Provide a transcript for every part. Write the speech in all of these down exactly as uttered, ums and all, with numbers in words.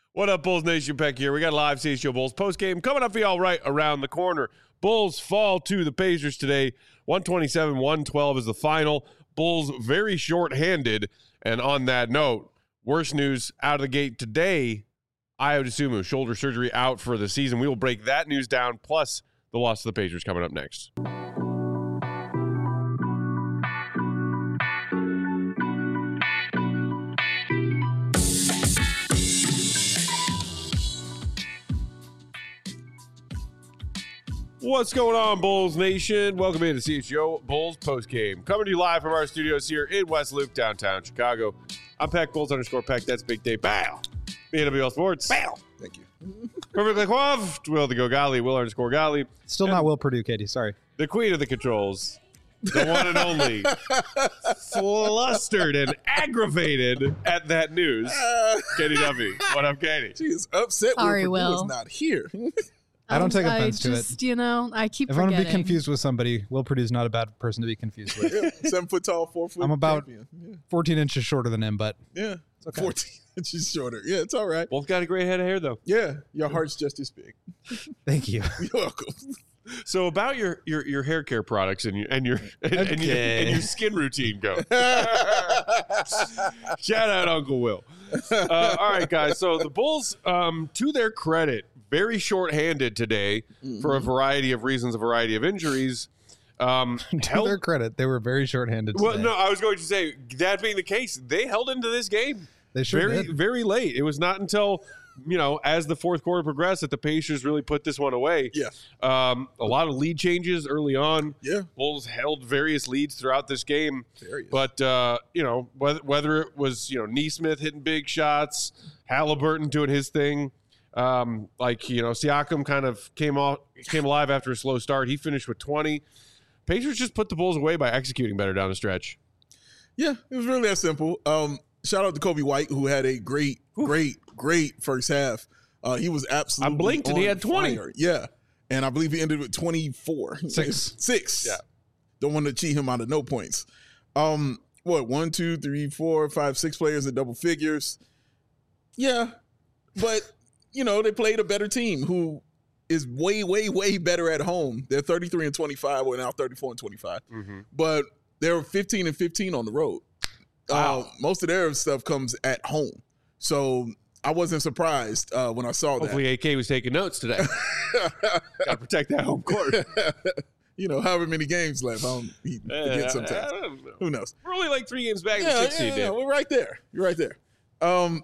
What up, Bulls Nation? Peck here. We got a live C H G O Bulls postgame coming up for y'all right around the corner. Bulls fall to the Pacers today. one twenty-seven one twelve is the final. Bulls very short-handed. And on that note, worst news out of the gate today, Ayo Dosunmu, shoulder surgery out for the season. We will break that news down, plus the loss to the Pacers coming up next. What's going on, Bulls Nation? Welcome into C H G O Bulls postgame. Coming to you live from our studios here in West Loop, downtown Chicago. I'm Peck, Bulls underscore Peck. That's Big Day. Bow. B N W L Sports. Bow. Thank you. Perfectly coiffed. Will the Go Golly. Will underscore Golly. Still and not Will Purdue, Katie. Sorry. The queen of the controls. The one and only. Flustered and aggravated at that news. Uh, Katie Duffy. What up, Katie? She is upset Sorry, Will Purdue Will. is not here. I don't take I offense to just, it. You know, I keep If forgetting. I'm going to be confused with somebody, Will Purdue's not a bad person to be confused with. Yeah, seven foot tall, four foot I'm about champion. Yeah. fourteen inches shorter than him, but Yeah, okay. fourteen inches shorter. Yeah, it's all right. Both got a great head of hair, though. Yeah, your heart's just as big. thank you. You're welcome. So about your your, your hair care products and your and your and, and your Okay. and your skin routine go. Shout out Uncle Will. Uh, all right, guys. So the Bulls, um, to their credit, very short-handed today mm-hmm. for a variety of reasons, a variety of injuries. Um, to held, their credit, they were very short-handed well, today. no, I was going to say, that being the case, they held into this game. They sure very, did. very late. It was not until, you know, as the fourth quarter progressed that the Pacers really put this one away. Yeah. Um, a lot of lead changes early on. Yeah. Bulls held various leads throughout this game. Various. But, uh, you know, whether, whether it was, you know, Nesmith hitting big shots, Halliburton doing his thing, um, like, you know, Siakam kind of came off, came alive after a slow start. He finished with twenty. Pacers just put the Bulls away by executing better down the stretch. Yeah, it was really that simple. Um, shout out to Kobe White, who had a great, great, great first half. Uh, he was absolutely I blinked and he had twenty. Fire. Yeah, and I believe he ended with twenty-four. Six. Six. Yeah. Don't want to cheat him out of no points. Um, what, one, two, three, four, five, six players in double figures. Yeah, but, you know, they played a better team who is way, way, way better at home. They're thirty-three and twenty-five. We're now thirty-four and twenty-five. Mm-hmm. But they're fifteen and fifteen on the road. Wow. Uh, most of their stuff comes at home. So I wasn't surprised uh, when I saw Hopefully that. A K was taking notes today. Got to protect that home court. You know, however many games left. I don't he forget Uh, sometimes. I don't know. Who knows? We're only like three games back in Yeah, the six yeah, seed, yeah, Dave. we're right there. You're right there. Um,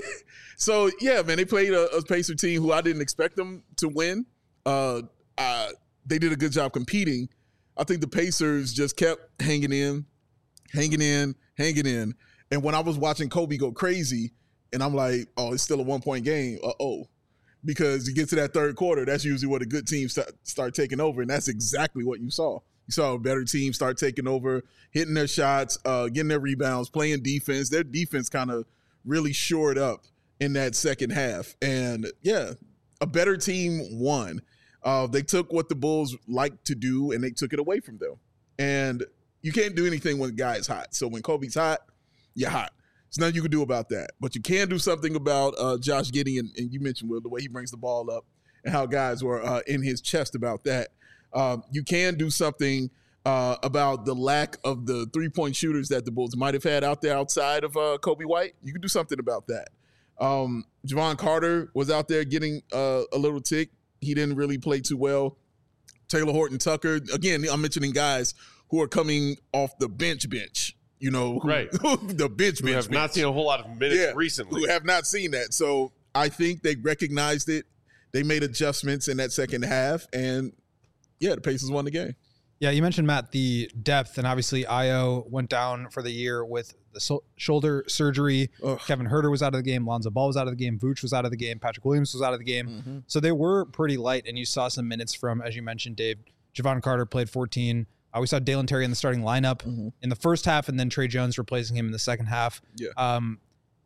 so, yeah, man, they played a, a Pacer team who I didn't expect them to win. Uh, uh, they did a good job competing. I think the Pacers just kept hanging in, hanging in, hanging in. And when I was watching Kobe go crazy, and I'm like, oh, it's still a one-point game. Uh-oh. Because you get to that third quarter, that's usually where the good teams start, start taking over, and that's exactly what you saw. You saw a better team start taking over, hitting their shots, uh, getting their rebounds, playing defense. Their defense kind of really shored up in that second half. And, yeah, a better team won. Uh, they took what the Bulls like to do, and they took it away from them. And you can't do anything when the guy is hot. So when Kobe's hot, you're hot. There's nothing you can do about that. But you can do something about uh, Josh Giddey, and, and you mentioned, Will, the way he brings the ball up and how guys were uh, in his chest about that. Um, you can do something uh, about the lack of the three-point shooters that the Bulls might have had out there outside of uh, Kobe White. You can do something about that. Um, Javon Carter was out there getting uh, a little tick. He didn't really play too well. Taylor Horton Tucker, again, I'm mentioning guys who are coming off the bench bench. You know, who, Right. the bench We bench have not bench. seen a whole lot of minutes Yeah, recently. who have not seen that. So I think they recognized it. They made adjustments in that second half, and yeah, the Pacers won the game. Yeah, you mentioned, Matt, the depth, and obviously Ayo went down for the year with the so- shoulder surgery. Ugh. Kevin Huerter was out of the game. Lonzo Ball was out of the game. Vooch was out of the game. Patrick Williams was out of the game. Mm-hmm. So they were pretty light, and you saw some minutes from, as you mentioned, Dave, Javon Carter played fourteen. Uh, we saw Dalen Terry in the starting lineup Mm-hmm. in the first half, and then Trey Jones replacing him in the second half. Yeah. Um,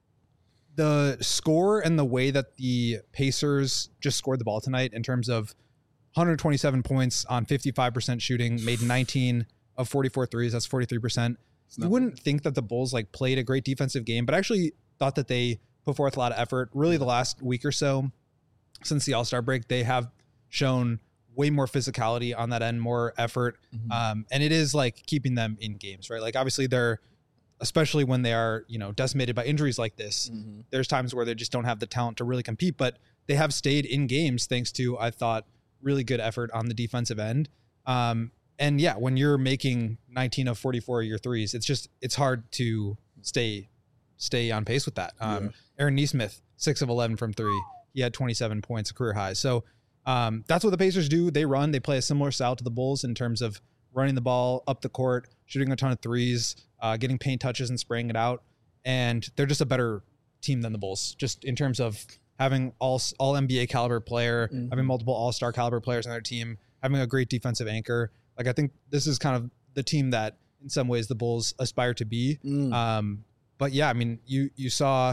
the score and the way that the Pacers just scored the ball tonight in terms of one hundred twenty-seven points on fifty-five percent shooting, made nineteen of forty-four threes. That's forty-three percent. You wouldn't think that the Bulls like played a great defensive game, but I actually thought that they put forth a lot of effort. Really, the last week or so since the All-Star break, they have shown way more physicality on that end, more effort. Mm-hmm. Um, and it is like keeping them in games, right? Like obviously they're, especially when they are, you know, decimated by injuries like this, mm-hmm. there's times where they just don't have the talent to really compete, but they have stayed in games thanks to, I thought, really good effort on the defensive end. Um, and yeah, when you're making nineteen of forty-four of your threes, it's just, it's hard to stay, stay on pace with that. Um, yeah. Aaron Nesmith, six of eleven from three. He had twenty-seven points, a career high. So um, that's what the Pacers do. They run, they play a similar style to the Bulls in terms of running the ball up the court, shooting a ton of threes, uh, getting paint touches and spraying it out. And they're just a better team than the Bulls, just in terms of having all, all N B A caliber player, mm-hmm. having multiple all-star caliber players on their team, having a great defensive anchor. Like, I think this is kind of the team that in some ways the Bulls aspire to be. Mm. Um, but yeah, I mean, you, you saw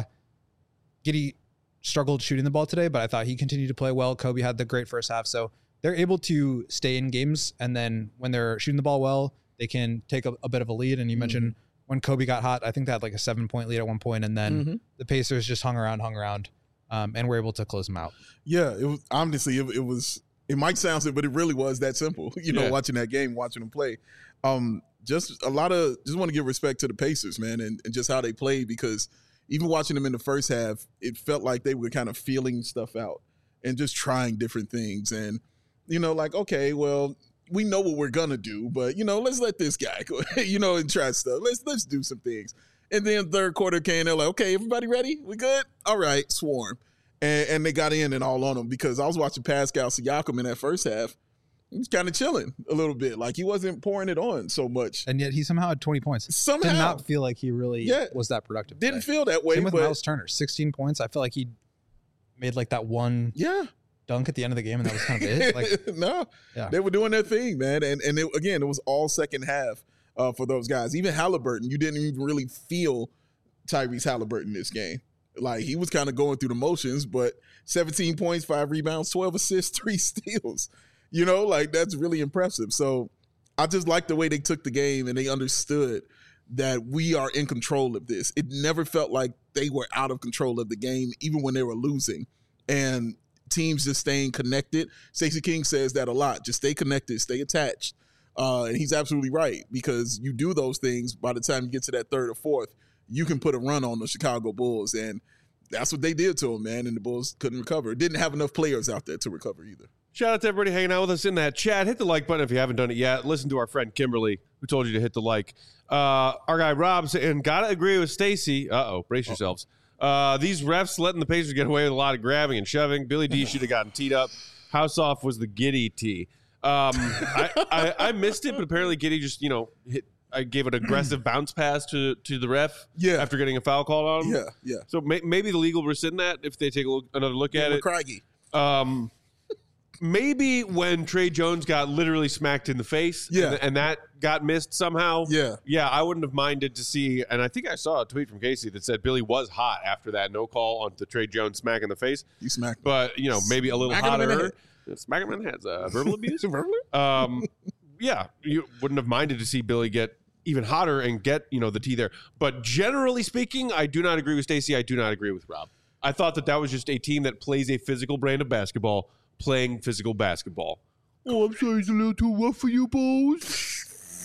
Giddey struggled shooting the ball today, but I thought he continued to play well. Kobe had the great first half. So they're able to stay in games. And then when they're shooting the ball well, they can take a, a bit of a lead. And you mm-hmm. mentioned when Kobe got hot, I think they had like a seven point lead at one point, and then mm-hmm. the Pacers just hung around, hung around, um, and were able to close them out. Yeah, it was honestly, it, it was, it might sound simple, but it really was that simple, you know, yeah. watching that game, watching them play. Um, just a lot of, just want to give respect to the Pacers, man, and, and just how they played, because even watching them in the first half, it felt like they were kind of feeling stuff out and just trying different things. And, you know, like, okay, well, we know what we're going to do, but, you know, let's let this guy go, you know, and try stuff. Let's let's do some things. And then third quarter came, they're like, okay, everybody ready? We good? All right, swarm. And, and they got in and all on them, because I was watching Pascal Siakam in that first half. He was kind of chilling a little bit. Like, he wasn't pouring it on so much. And yet he somehow had twenty points. Somehow. Did not feel like he really yeah. was that productive. Didn't today. feel that way. Same with but Miles Turner, sixteen points. I feel like he made like that one yeah. dunk at the end of the game, and that was kind of it. Like, no, yeah. they were doing their thing, man. And and it, again, it was all second half uh, for those guys. Even Halliburton, you didn't even really feel Tyrese Halliburton this game. Like, he was kind of going through the motions, but seventeen points, five rebounds, twelve assists, three steals. You know, like, that's really impressive. So I just like the way they took the game, and they understood that we are in control of this. It never felt like they were out of control of the game, even when they were losing. And teams just staying connected. Stacey King says that a lot. Just stay connected, stay attached. Uh, and he's absolutely right, because you do those things, by the time you get to that third or fourth, you can put a run on the Chicago Bulls. And that's what they did to them, man. And the Bulls couldn't recover. Didn't have enough players out there to recover either. Shout out to everybody hanging out with us in that chat. Hit the like button if you haven't done it yet. Listen to our friend Kimberly, who told you to hit the like. Uh, our guy Rob saying, gotta agree with Stacey. Uh-oh, brace yourselves. Uh, these refs letting the Pacers get away with a lot of grabbing and shoving. Billy D should have gotten teed up. How soft was the Giddey tee? Um, I, I, I missed it, but apparently Giddey just, you know, hit. I gave an aggressive bounce pass to, to the ref yeah. after getting a foul called on him. Yeah, yeah. So may, maybe the legal rescind that if they take a look, another look yeah, at it. Craigie. Um, maybe when Trey Jones got literally smacked in the face yeah. and, and that got missed somehow. Yeah. Yeah, I wouldn't have minded to see. And I think I saw a tweet from Casey that said Billy was hot after that no call on the Trey Jones smack in the face. You smacked him. But, you know, maybe a little Smack hotter. Smack him in the head. Uh, verbal abuse? um, yeah, you wouldn't have minded to see Billy get even hotter and get, you know, the tea there. But generally speaking, I do not agree with Stacey. I do not agree with Rob. I thought that that was just a team that plays a physical brand of basketball, playing physical basketball. Oh, I'm sorry, it's a little too rough for you, boys.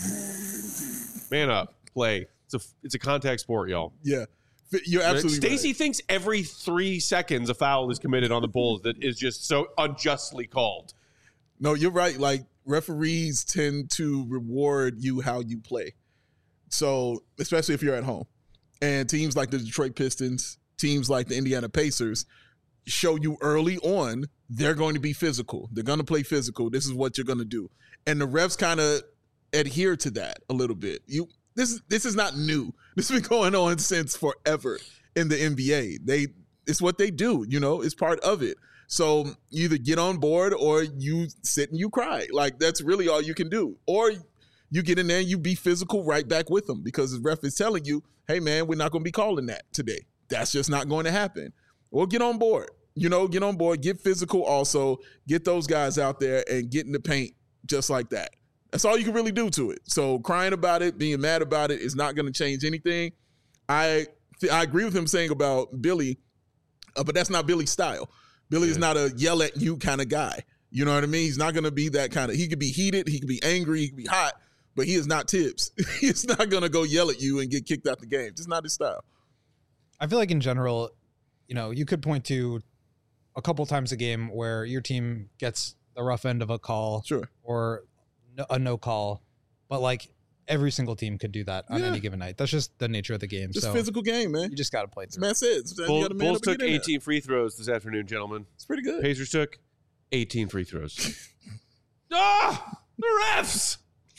Man up, play. It's a it's a contact sport, y'all. Yeah, you're absolutely Stacey right. thinks every three seconds a foul is committed on the Bulls that is just so unjustly called. No, you're right. Like, referees tend to reward you how you play. So, especially if you're at home. And teams like the Detroit Pistons, teams like the Indiana Pacers show you early on they're going to be physical. They're going to play physical. This is what you're going to do. And the refs kind of adhere to that a little bit. You this this is not new. This has been going on since forever in the N B A. They it's what they do, you know, it's part of it. So you either get on board or you sit and you cry. Like, that's really all you can do. Or you get in there and you be physical right back with them, because the ref is telling you, hey, man, we're not going to be calling that today. That's just not going to happen. Or get on board. You know, get on board, get physical also, get those guys out there and get in the paint just like that. That's all you can really do to it. So crying about it, being mad about it is not going to change anything. I I agree with him saying about Billy, Uh, but that's not Billy's style. Billy is Yeah. not a yell at you kind of guy. You know what I mean? He's not going to be that kind of. He could be heated, he could be angry, he could be hot, but he is not Tibbs. He's not going to go yell at you and get kicked out the game. Just not his style. I feel like in general, you know, you could point to a couple times a game where your team gets the rough end of a call Sure. or no, a no call, but like every single team could do that on Yeah. any given night. That's just the nature of the game. Just so physical game, man. you just got to play As through. man said, you Bull, gotta man Bulls up and took get in there. eighteen free throws this afternoon, gentlemen. It's pretty good. Pacers took eighteen free throws. ah, the refs.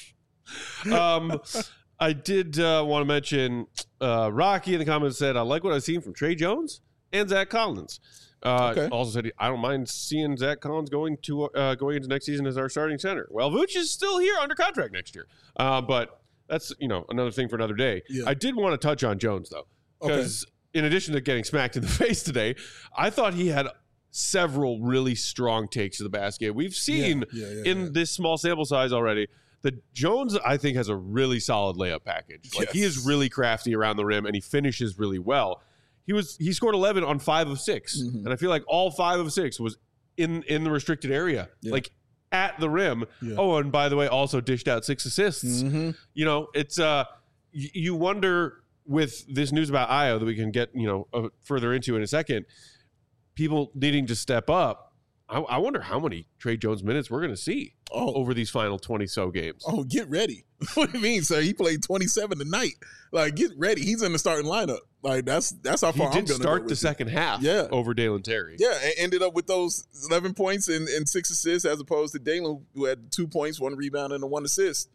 Um, I did uh, want to mention uh, Rocky in the comments said, I like what I've seen from Trey Jones and Zach Collins. Uh, Okay. Also said, I don't mind seeing Zach Collins going to uh, going into next season as our starting center. Well, Vooch is still here under contract next year. Uh, but that's, you know, another thing for another day. Yeah. I did want to touch on Jones, though, because in addition to getting smacked in the face today, I thought he had several really strong takes to the basket. We've seen Yeah, yeah, in yeah. this small sample size already that Jones, I think, has a really solid layup package. Like he is Yes. really crafty around the rim and he finishes really well. He was he scored eleven on five of six, Mhm. and I feel like all five of six was in in the restricted area, Yeah. like at the rim. Yeah. Oh, and by the way, also dished out six assists. Mm-hmm. You know, it's uh, y- you wonder with this news about Io that we can get you know uh, further into in a second. People needing to step up. I, I wonder how many Trey Jones minutes we're going to see Oh, over these final twenty so games. oh, get ready. What do you mean, sir? He played twenty-seven tonight. Like, get ready. He's in the starting lineup. Like, that's that's how He far I'm did going to start go the with it. second half Yeah. over Dalen Terry. Yeah, and ended up with those eleven points and, and six assists as opposed to Dalen, who had two points, one rebound, and a one assist,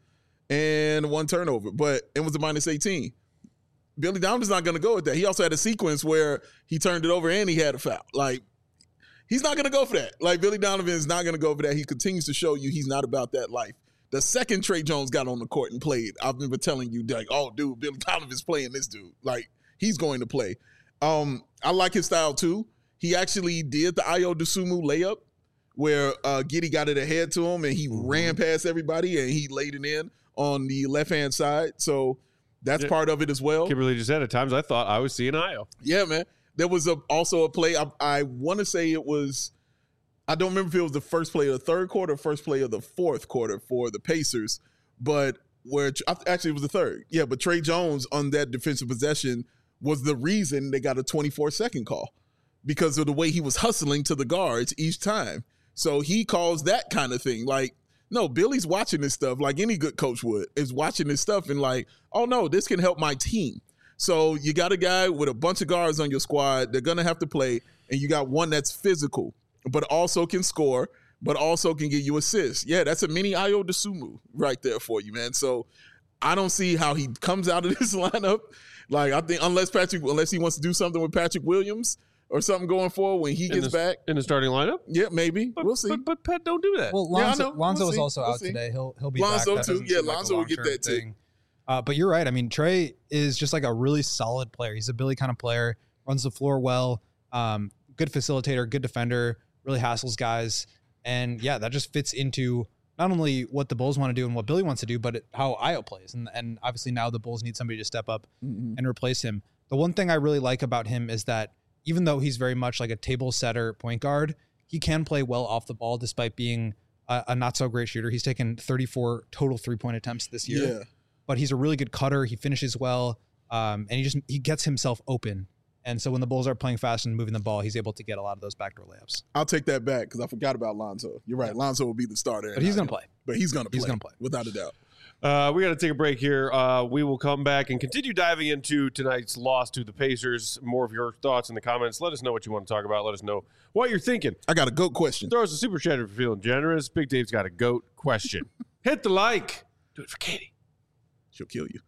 and one turnover. But it was a minus eighteen. Billy Donovan's not going to go with that. He also had a sequence where he turned it over and he had a foul. Like, he's not going to go for that. Like, Billy Donovan is not going to go for that. He continues to show you he's not about that life. The second Trey Jones got on the court and played, I remember telling you, like, oh, dude, Billy Donovan's playing this dude. Like, he's going to play. Um, I like his style, too. He actually did the Io DeSumo layup where uh, Giddey got it ahead to him and he Mm-hmm. ran past everybody and he laid it in on the left-hand side. So that's Yeah. part of it as well. Kimberly just said at times I thought I was seeing Io. Yeah, man. There was a also a play. I, I want to say it was. I don't remember if it was the first play of the third quarter, or first play of the fourth quarter for the Pacers, but where actually it was the third. Yeah, but Trey Jones on that defensive possession was the reason they got a twenty-four second call because of the way he was hustling to the guards each time. So he calls that kind of thing. Like, no, Billy's watching this stuff like any good coach would, is watching this stuff and like, oh no, this can help my team. So you got a guy with a bunch of guards on your squad. They're going to have to play. And you got one that's physical, but also can score, but also can give you assists. Yeah, that's a mini Io DeSumo right there for you, man. So I don't see how he comes out of this lineup. Like, I think unless Patrick, unless he wants to do something with Patrick Williams or something going forward when he In gets the, back. in the starting lineup. Yeah, maybe. But, we'll see. But, but Pat, don't do that. Well, Yeah, I Lonzo, know. Lonzo We'll is see. also We'll out see. today. He'll he'll be Lonzo back. That too. doesn't Yeah, seem like a Lonzo will get long-term that too. thing. Uh, but you're right. I mean, Trey is just like a really solid player. He's a Billy kind of player. Runs the floor well. Um, good facilitator. Good defender. Really hassles guys. And yeah, that just fits into not only what the Bulls want to do and what Billy wants to do, but it, how Io plays. And and obviously now the Bulls need somebody to step up Mhm. and replace him. The one thing I really like about him is that even though he's very much like a table setter point guard, he can play well off the ball despite being a, a not so great shooter. He's taken thirty-four total three point attempts this year, Yeah. but he's a really good cutter. He finishes well, um, and he just he gets himself open. And so when the Bulls are playing fast and moving the ball, he's able to get a lot of those backdoor layups. I'll take that back because I forgot about Lonzo. You're right. Lonzo will be the starter. But he's going to play. But he's going to play. He's gonna play. Without a doubt. Uh, we got to take a break here. Uh, we will come back and continue diving into tonight's loss to the Pacers. More of your thoughts in the comments. Let us know what you want to talk about. Let us know what you're thinking. I got a GOAT question. Throw us a super chat if you're feeling generous. Big Dave's got a GOAT question. Hit the like. Do it for Katie. She'll kill you.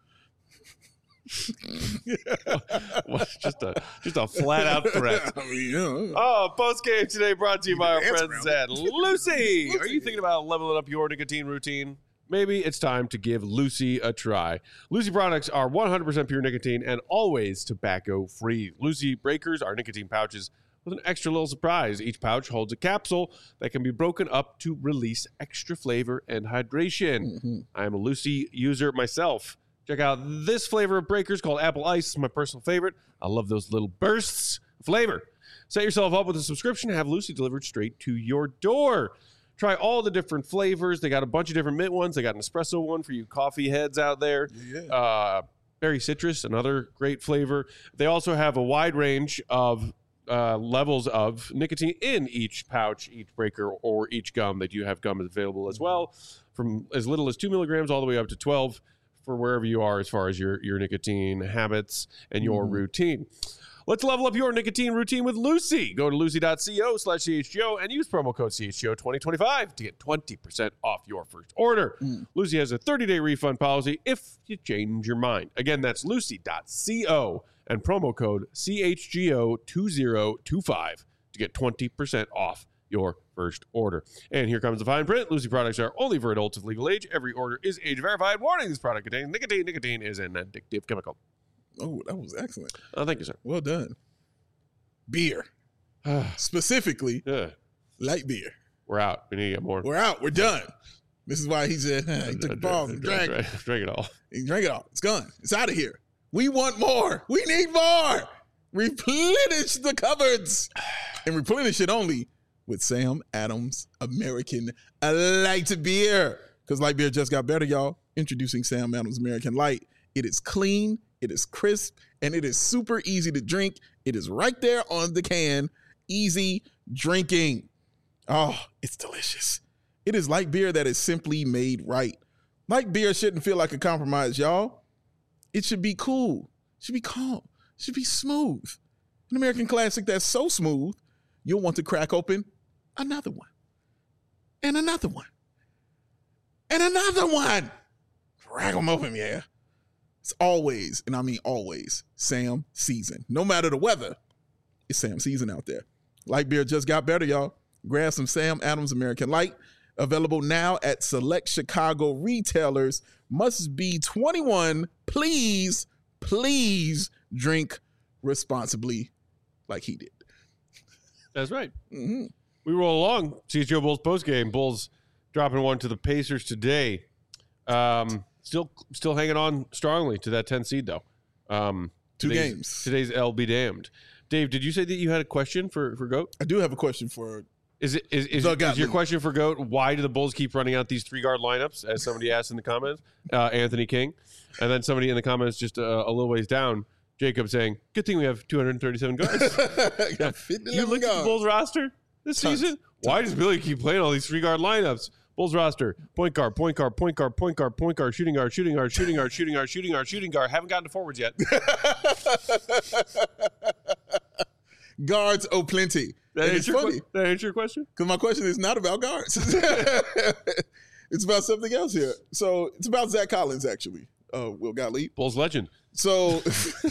Well, just a just a flat out threat. I mean, you know. Oh, post game today brought to you by our Dance friends around. at Lucy. Are Lucy. you thinking about leveling up your nicotine routine? Maybe it's time to give Lucy a try. Lucy products are one hundred percent pure nicotine and always tobacco free. Lucy breakers are nicotine pouches with an extra little surprise. Each pouch holds a capsule that can be broken up to release extra flavor and hydration. Mhm. I am a Lucy user myself. Check out this flavor of breakers called Apple Ice. It's my personal favorite. I love those little bursts of flavor. Set yourself up with a subscription and have Lucy delivered straight to your door. Try all the different flavors. They got a bunch of different mint ones. They got an espresso one for you coffee heads out there. Yeah. Uh, berry citrus, another great flavor. They also have a wide range of uh, levels of nicotine in each pouch, each breaker, or each gum. They do have gum available as well, from as little as two milligrams all the way up to twelve for wherever you are as far as your, your nicotine habits and your mm. routine. Let's level up your nicotine routine with Lucy. Go to lucy.co slash CHGO and use promo code C H G O twenty twenty-five to get twenty percent off your first order. Mm. Lucy has a thirty-day refund policy if you change your mind. Again, that's lucy.co and promo code C H G O twenty twenty-five to get twenty percent off your first order. And here comes the fine print. Lucy products are only for adults of legal age. Every order is age verified. Warning, this product contains nicotine. Nicotine is an addictive chemical. Oh, that was excellent. Oh, thank you, sir. Well done. Beer. Specifically, yeah. light beer. We're out. We need to get more. We're out. We're done. This is why he said, he took a pause and drank it. Drink it all. He drank it all. It's gone. It's out of here. We want more. We need more. Replenish the cupboards. And replenish it only with Sam Adams American Light Beer. Because light beer just got better, y'all. Introducing Sam Adams American Light. It is clean. It is crisp, and it is super easy to drink. It is right there on the can. Easy drinking. Oh, it's delicious. It is light beer that is simply made right. Light beer shouldn't feel like a compromise, y'all. It should be cool. It should be calm. It should be smooth. An American classic that's so smooth, you'll want to crack open another one. And another one. And another one. Crack them open, yeah. It's always, and I mean always, Sam season. No matter the weather, it's Sam season out there. Light beer just got better, y'all. Grab some Sam Adams American Light. Available now at select Chicago retailers. Must be twenty-one. Please, please drink responsibly like he did. That's right. Mm-hmm. We roll along. C H G O Bulls postgame. Bulls dropping one to the Pacers today. Um... Still still hanging on strongly to that ten seed, though. Um, Two today's, games. Today's L be damned. Dave, did you say that you had a question for, for GOAT? I do have a question for Is it is, is, is your question for GOAT, why do the Bulls keep running out these three-guard lineups, as somebody asked in the comments? Uh, Anthony King. And then somebody in the comments just uh, a little ways down, Jacob saying, good thing we have two hundred thirty-seven guards. Yeah. You look at the Bulls roster this Tons. season? Tons. Why does Billy keep playing all these three-guard lineups? Bulls roster, point guard, point guard, point guard, point guard, point guard, shooting guard, shooting guard, shooting guard, shooting guard, shooting guard, shooting guard. Haven't gotten to forwards yet. Guards, oh, plenty. That it's funny. Qu- that answer your question? Because my question is not about guards. It's about something else here. So it's about Zach Collins, actually. Uh, Will Gottlieb. Bulls legend. So,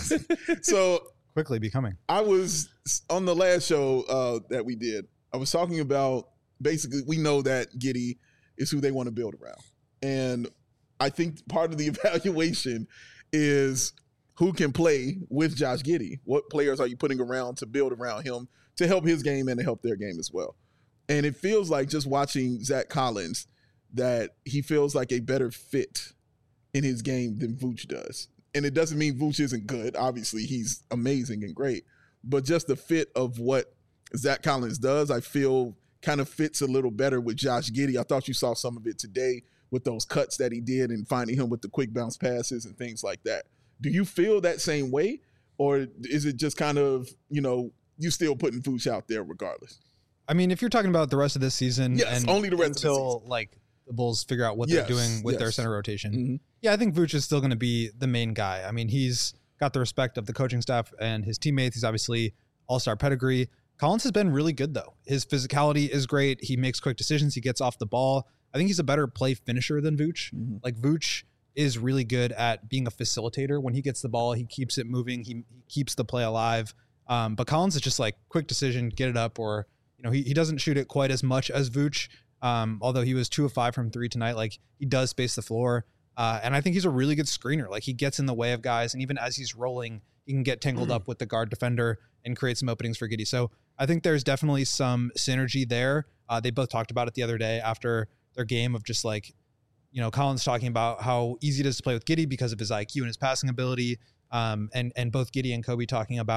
so quickly becoming. I was on the last show uh, that we did. I was talking about basically we know that Giddey is who they want to build around, and I think part of the evaluation is who can play with Josh Giddey. What players are you putting around to build around him to help his game and to help their game as well? And it feels like just watching Zach Collins that he feels like a better fit in his game than Vooch does. And it doesn't mean Vooch isn't good. Obviously, he's amazing and great. But just the fit of what Zach Collins does, I feel kind of fits a little better with Josh Giddey. I thought you saw some of it today with those cuts that he did and finding him with the quick bounce passes and things like that. Do you feel that same way? Or is it just kind of, you know, you still putting Vooch out there regardless? I mean, if you're talking about the rest of this season, yes, and only the rest until of the season. like the Bulls figure out what yes, they're doing with yes. their center rotation. Mm-hmm. Yeah, I think Vooch is still going to be the main guy. I mean, he's got the respect of the coaching staff and his teammates. He's obviously all-star pedigree. Collins has been really good, though. His physicality is great. He makes quick decisions. He gets off the ball. I think he's a better play finisher than Vooch. Mm-hmm. Like, Vooch is really good at being a facilitator. When he gets the ball, he keeps it moving. He, he keeps the play alive. Um, but Collins is just like quick decision, get it up, or, you know, he, he doesn't shoot it quite as much as Vooch. Um, although he was two of five from three tonight. Like, he does space the floor. Uh, and I think he's a really good screener. Like, he gets in the way of guys. And even as he's rolling, he can get tangled mm-hmm. up with the guard defender and create some openings for Giddey. So I think there's definitely some synergy there. Uh, they both talked about it the other day after their game of just like, you know, Collins talking about how easy it is to play with Giddey because of his I Q and his passing ability. Um, and, and both Giddey and Kobe talking about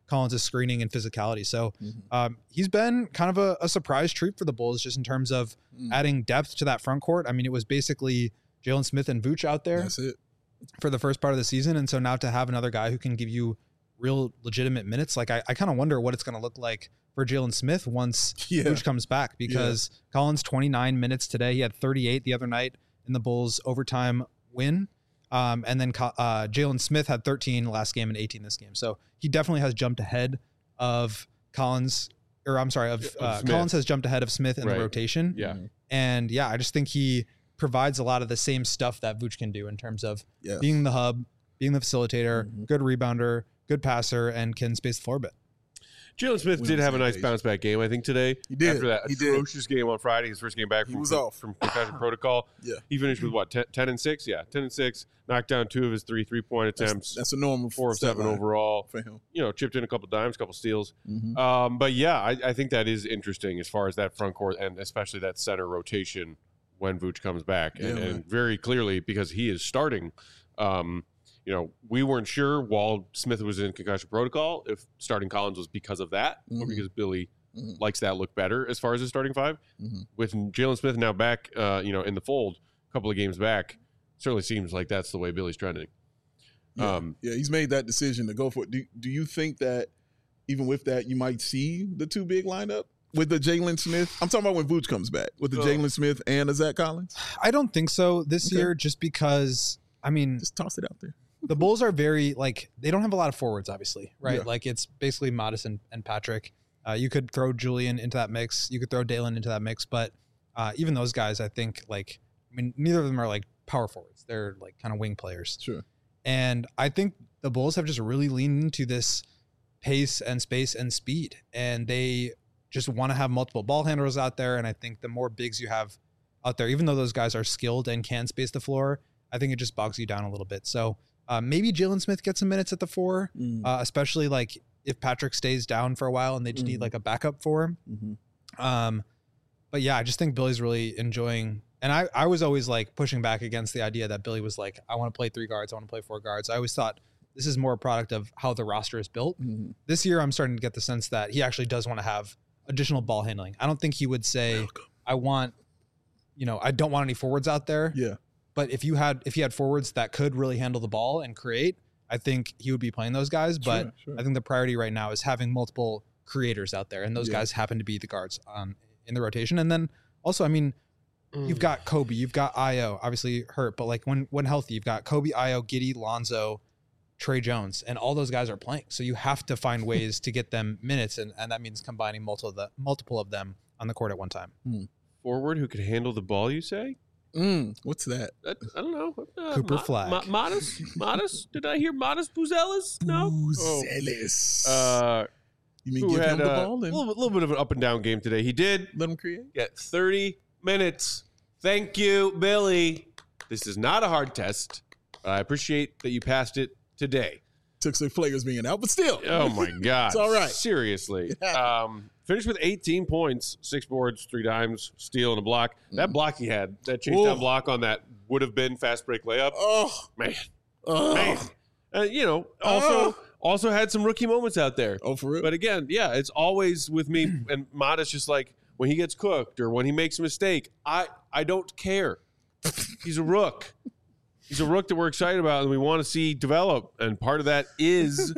Collins' screening and physicality. So Mhm. um, he's been kind of a, a surprise treat for the Bulls just in terms of Mm. adding depth to that front court. I mean, it was basically Jalen Smith and Vooch out there That's it. for the first part of the season. And so now to have another guy who can give you real legitimate minutes, like I, I kind of wonder what it's going to look like for Jalen Smith once Yeah. Vooch comes back, because Collins twenty-nine minutes today. He had thirty-eight the other night in the Bulls overtime win. Um, and then uh, Jalen Smith had thirteen last game and eighteen this game. So he definitely has jumped ahead of Collins, or I'm sorry, of, Of uh, Smith. Collins has jumped ahead of Smith in Right. the rotation. Yeah. And yeah, I just think he provides a lot of the same stuff that Vooch can do in terms of Yes. being the hub, being the facilitator, Mhm. good rebounder, good passer, and can space the floor a bit. Jalen Smith We did on the have a same nice page. bounce back game, I think, today. He did. After that He did. atrocious game on Friday, his first game back He from, was off. from concussion protocol. Yeah. He finished with what, ten, ten and six? Yeah, ten and six. Knocked down two of his three three point That's, attempts. that's a normal four of stat seven line overall. for him. You know, chipped in a couple dimes, couple steals. Mhm. Um, but yeah, I, I think that is interesting as far as that front court and especially that center rotation when Vooch comes back. And, Yeah, man. and very clearly, because he is starting, um, you know, we weren't sure while Smith was in concussion protocol if starting Collins was because of that or Mhm. because Billy Mhm. likes that look better as far as his starting five. Mhm. With Jalen Smith now back, uh, you know, in the fold, a couple of games back, certainly seems like that's the way Billy's trending. Yeah. Um, yeah, he's made that decision to go for it. Do, do you think that even with that, you might see the two big lineup with the Jalen Smith? I'm talking about when Vooch comes back with the Oh. Jalen Smith and the Zach Collins. I don't think so this Okay. year, just because, I mean, Just toss it out there. the Bulls are very, like, they don't have a lot of forwards, obviously, right? Yeah. Like, it's basically Modest and, and Patrick. Uh, you could throw Julian into that mix. You could throw Dalen into that mix. But uh, even those guys, I think, like, I mean, neither of them are, like, power forwards. They're, like, kind of wing players. Sure. And I think the Bulls have just really leaned into this pace and space and speed. And they just want to have multiple ball handlers out there. And I think the more bigs you have out there, even though those guys are skilled and can space the floor, I think it just bogs you down a little bit. So uh, maybe Jalen Smith gets some minutes at the four, Mm. uh, especially like if Patrick stays down for a while and they just need Mhm. like a backup for him. Mhm. Um, but yeah, I just think Billy's really enjoying. And I, I was always like pushing back against the idea that Billy was like, I want to play three guards. I want to play four guards. I always thought this is more a product of how the roster is built. Mhm. This year, I'm starting to get the sense that he actually does want to have additional ball handling. I don't think he would say, Welcome. I want, you know, I don't want any forwards out there. Yeah. But if you had, if he had forwards that could really handle the ball and create, I think he would be playing those guys. But Sure, sure. I think the priority right now is having multiple creators out there. And those Yeah. guys happen to be the guards on in the rotation. And then also, I mean, you've got Kobe, you've got Io, obviously hurt, but like when when healthy, you've got Kobe, Io, Giddey, Lonzo, Trey Jones, and all those guys are playing. So you have to find ways to get them minutes, and, and that means combining multiple of the multiple of them on the court at one time. forward who could handle the ball, you say? Mm. What's that? That, I don't know. Uh, Cooper Mo- Flag. Mo- Modest? Modest? Did I hear Modest Buzelis? No. Oh. Zealous. Uh, you mean who give him had the uh, ball a and little, little bit of an up and down game today. He did let him create? get thirty minutes. Thank you, Billy. This is not a hard test. I appreciate that you passed it today. Took some players being out, but still. Oh my God. It's all right. Seriously. It happened. Um, finished with eighteen points, six boards, three dimes, steal, and a block. That block he had, that chase down Ooh. block on that would have been fast break layup. Oh, Man, oh. man. Uh, you know, also Oh. also had some rookie moments out there. Oh, for real? But again, yeah, it's always with me and Modest just like when he gets cooked or when he makes a mistake, I I don't care. He's a rook. He's a rook that we're excited about and we want to see develop. And part of that is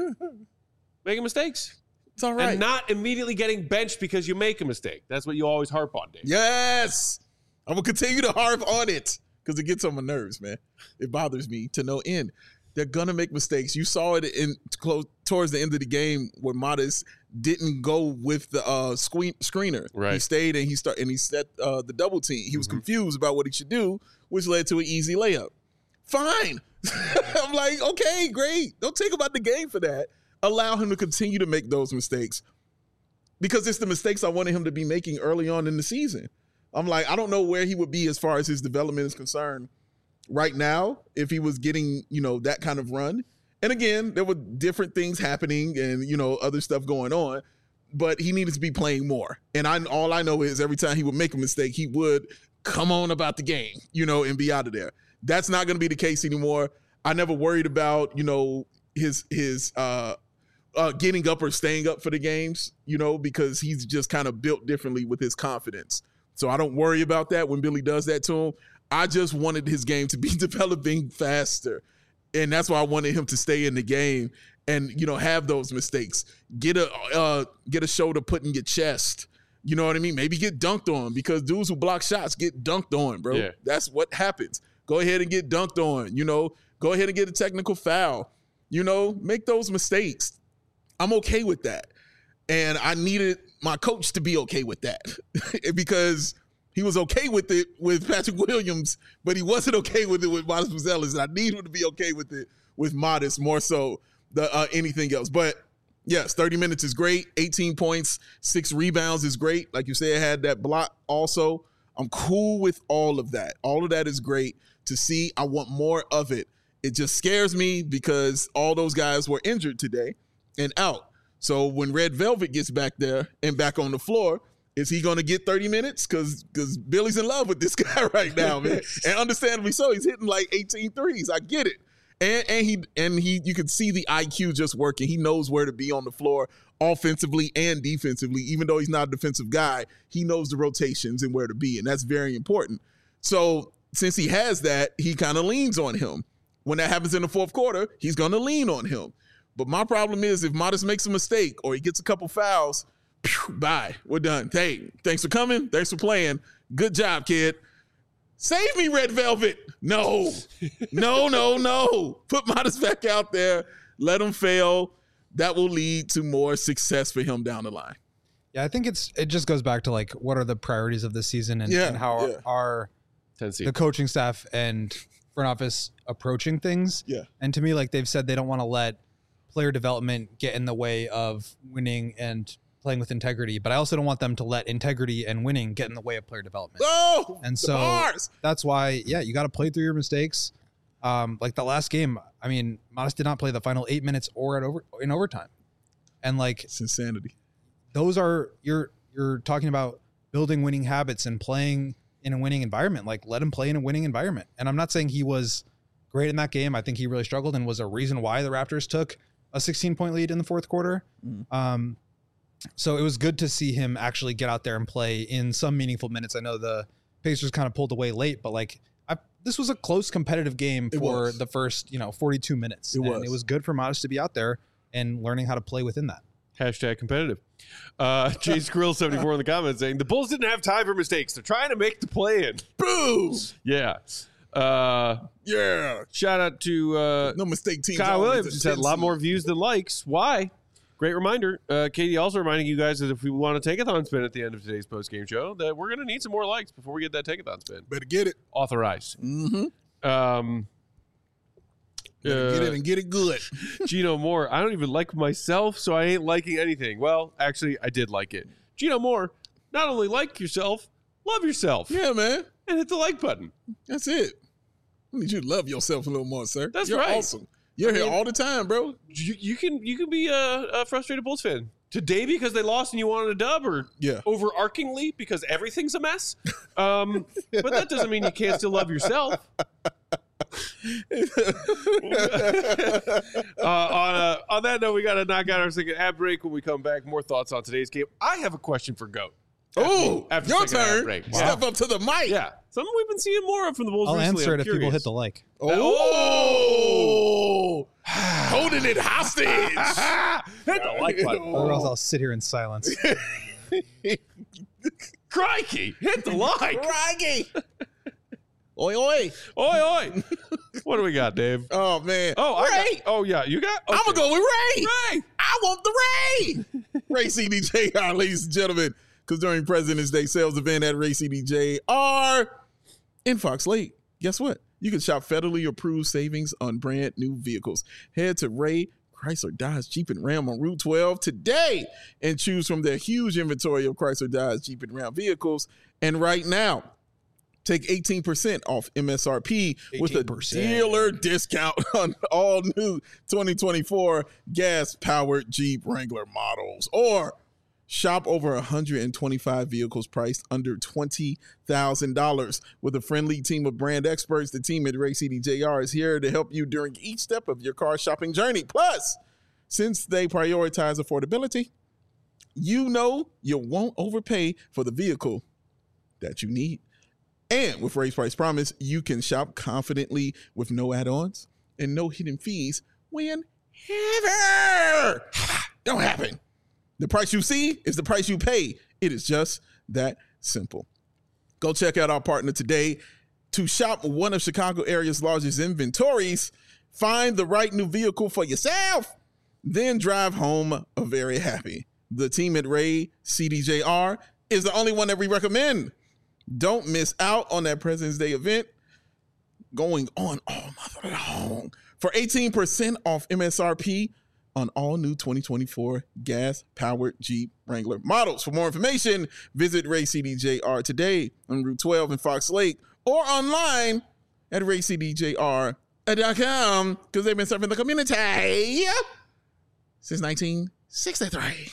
making mistakes. It's all right. And not immediately getting benched because you make a mistake. That's what you always harp on, Dave. Yes. I'm going to continue to harp on it because it gets on my nerves, man. It bothers me to no end. They're going to make mistakes. You saw it in close towards the end of the game where Modest didn't go with the uh, screen, screener. Right. He stayed and he start, and he set uh, the double team. He was Mm-hmm. confused about what he should do, which led to an easy layup. Fine. I'm like, okay, great. Don't take him out the game for that. Allow him to continue to make those mistakes because it's the mistakes I wanted him to be making early on in the season. I'm like, I don't know where he would be as far as his development is concerned right now if he was getting, you know, that kind of run. And again, there were different things happening and, you know, other stuff going on, but he needed to be playing more. And I all I know is every time he would make a mistake, he would come on about the game, you know, and be out of there. That's not going to be the case anymore. I never worried about, you know, his his uh uh, getting up or staying up for the games, you know, because he's just kind of built differently with his confidence. So I don't worry about that when Billy does that to him. I just wanted his game to be developing faster. And that's why I wanted him to stay in the game and, you know, have those mistakes. Get a uh, get a shoulder put in your chest. You know what I mean? Maybe get dunked on, because dudes who block shots get dunked on, bro. Yeah. That's what happens. Go ahead and get dunked on, you know. Go ahead and get a technical foul. You know, make those mistakes. I'm okay with that. And I needed my coach to be okay with that because he was okay with it with Patrick Williams, but he wasn't okay with it with Modest Buzelis. And I need him to be okay with it with Modest more so than uh, anything else. But yes, thirty minutes is great. eighteen points, six rebounds is great. Like you said, had that block also. I'm cool with all of that. All of that is great to see. I want more of it. It just scares me because all those guys were injured today and out. So when Red Velvet gets back there and back on the floor, is he going to get thirty minutes? Because because Billy's in love with this guy right now, man. And understandably so. He's hitting like eighteen threes. I get it. And, and he and he, you can see the I Q just working. He knows where to be on the floor offensively and defensively. Even though he's not a defensive guy, he knows the rotations and where to be. And that's very important. So since he has that, he kind of leans on him. When that happens in the fourth quarter, he's going to lean on him. But my problem is if Modest makes a mistake or he gets a couple fouls, phew, bye, we're done. Hey, thanks for coming. Thanks for playing. Good job, kid. Save me, Red Velvet. No, no, no, no. Put Modest back out there. Let him fail. That will lead to more success for him down the line. Yeah, I think it's it just goes back to like what are the priorities of this season and, Yeah, and how yeah. are Tennessee. the coaching staff and front office approaching things. Yeah. And to me, like they've said, they don't want to let player development get in the way of winning and playing with integrity. But I also don't want them to let integrity and winning get in the way of player development. Oh, And the so bars. that's why, yeah, you got to play through your mistakes. Um, like the last game, I mean, Modest did not play the final eight minutes or at over in overtime. And like It's insanity. those are you're you're talking about building winning habits and playing in a winning environment. Like let him play in a winning environment. And I'm not saying he was great in that game. I think he really struggled and was a reason why the Raptors took a sixteen point lead in the fourth quarter. Mm. Um, so it was good to see him actually get out there and play in some meaningful minutes. I know the Pacers kind of pulled away late, but like I, this was a close competitive game It for was. the first, you know, forty-two minutes. It and was. it was good for Modest to be out there and learning how to play within that. Hashtag competitive. Uh, Jay Skrill seventy-four in the comments saying the Bulls didn't have time for mistakes. They're trying to make the play in. Boom. Yeah. Uh, Yeah. shout out to uh, No mistake teams. Kyle always Williams. a Just had a ten lot seed. more views than likes. Why? Great reminder. Uh, Katie also reminding you guys that if we want to take-a-thon spin at the end of today's post-game show, that we're going to need some more likes before we get that take-a-thon spin. Better get it. Authorized. Mm-hmm. Um, Better uh, get it and get it good. Gino Moore. I don't even like myself, so I ain't liking anything. Well, actually, I did like it. Gino Moore, not only like yourself, love yourself. Yeah, man. And hit the like button. That's it. I need you to love yourself a little more, sir. That's You're right. awesome. You're I here mean- all the time, bro. You, you can you can be a, a frustrated Bulls fan today because they lost and you wanted a dub, or Yeah. overarchingly because everything's a mess. Um, but that doesn't mean you can't still love yourself. uh, on, uh, on that note, we got to knock out our second ad break. When we come back, more thoughts on today's game. I have a question for Goat. Oh, after your second ad turn. break. Step up to the mic. Yeah, something we've been seeing more of from the Bulls I'll recently. answer I'm it if people curious. hit the like. Oh, holding it hostage. Hit the like button. Or else I'll sit here in silence. Crikey, hit the like. Crikey. Oi, oi. Oi, oi. What do we got, Dave? Oh, man. Oh, I Ray. got, oh yeah, you got. I'm okay. going to go with Ray. Ray. I want the Ray. Ray C D J R, ladies and gentlemen, because during President's Day sales event at Ray C D J R in Fox Lake, guess what? You can shop federally approved savings on brand new vehicles. Head to Ray Chrysler Dodge Jeep and Ram on Route twelve today and choose from their huge inventory of Chrysler Dodge Jeep and Ram vehicles. And right now, take eighteen percent off M S R P with a eighteen percent. dealer discount on all new twenty twenty-four gas-powered Jeep Wrangler models. Or shop over one hundred twenty-five vehicles priced under twenty thousand dollars. With a friendly team of brand experts, the team at Ray C D J R is here to help you during each step of your car shopping journey. Plus, Since they prioritize affordability, you know you won't overpay for the vehicle that you need. And with Race Price Promise, you can shop confidently with no add-ons and no hidden fees whenever. Don't happen. The price you see is the price you pay. It is just that simple. Go check out our partner today to shop one of Chicago area's largest inventories. Find the right new vehicle for yourself, then drive home very happy. The team at Ray C D J R is the only one that we recommend. Don't miss out on that President's Day event going on all month long for eighteen percent off M S R P on all new twenty twenty-four gas-powered Jeep Wrangler models. For more information, visit Ray C D J R today on Route twelve in Fox Lake or online at ray c d j r dot com because they've been serving the community since nineteen sixty-three.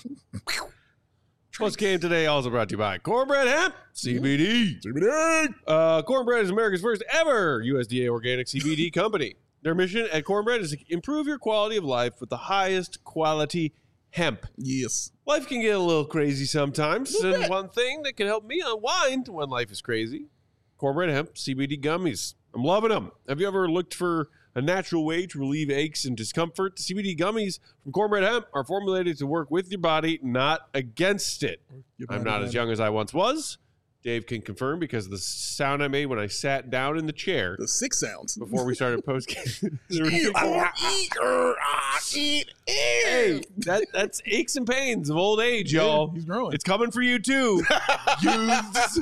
Post game today also brought to you by Cornbread Hemp, C B D. C B D. Uh, Cornbread is America's first ever U S D A organic C B D company. Their mission at Cornbread is to improve your quality of life with the highest quality hemp. Yes. Life can get a little crazy sometimes, Little and bit. one thing that can help me unwind when life is crazy, Cornbread Hemp C B D gummies. I'm loving them. Have you ever looked for a natural way to relieve aches and discomfort? The C B D gummies from Cornbread Hemp are formulated to work with your body, not against it. I'm not as young as I once was. Dave can confirm because of the sound I made when I sat down in the chair The six sounds. before we started post game. Eat, ah, eat, er, ah, eat, Hey, that, that's aches and pains of old age, y'all. He's growing. It's coming for you too. Youths.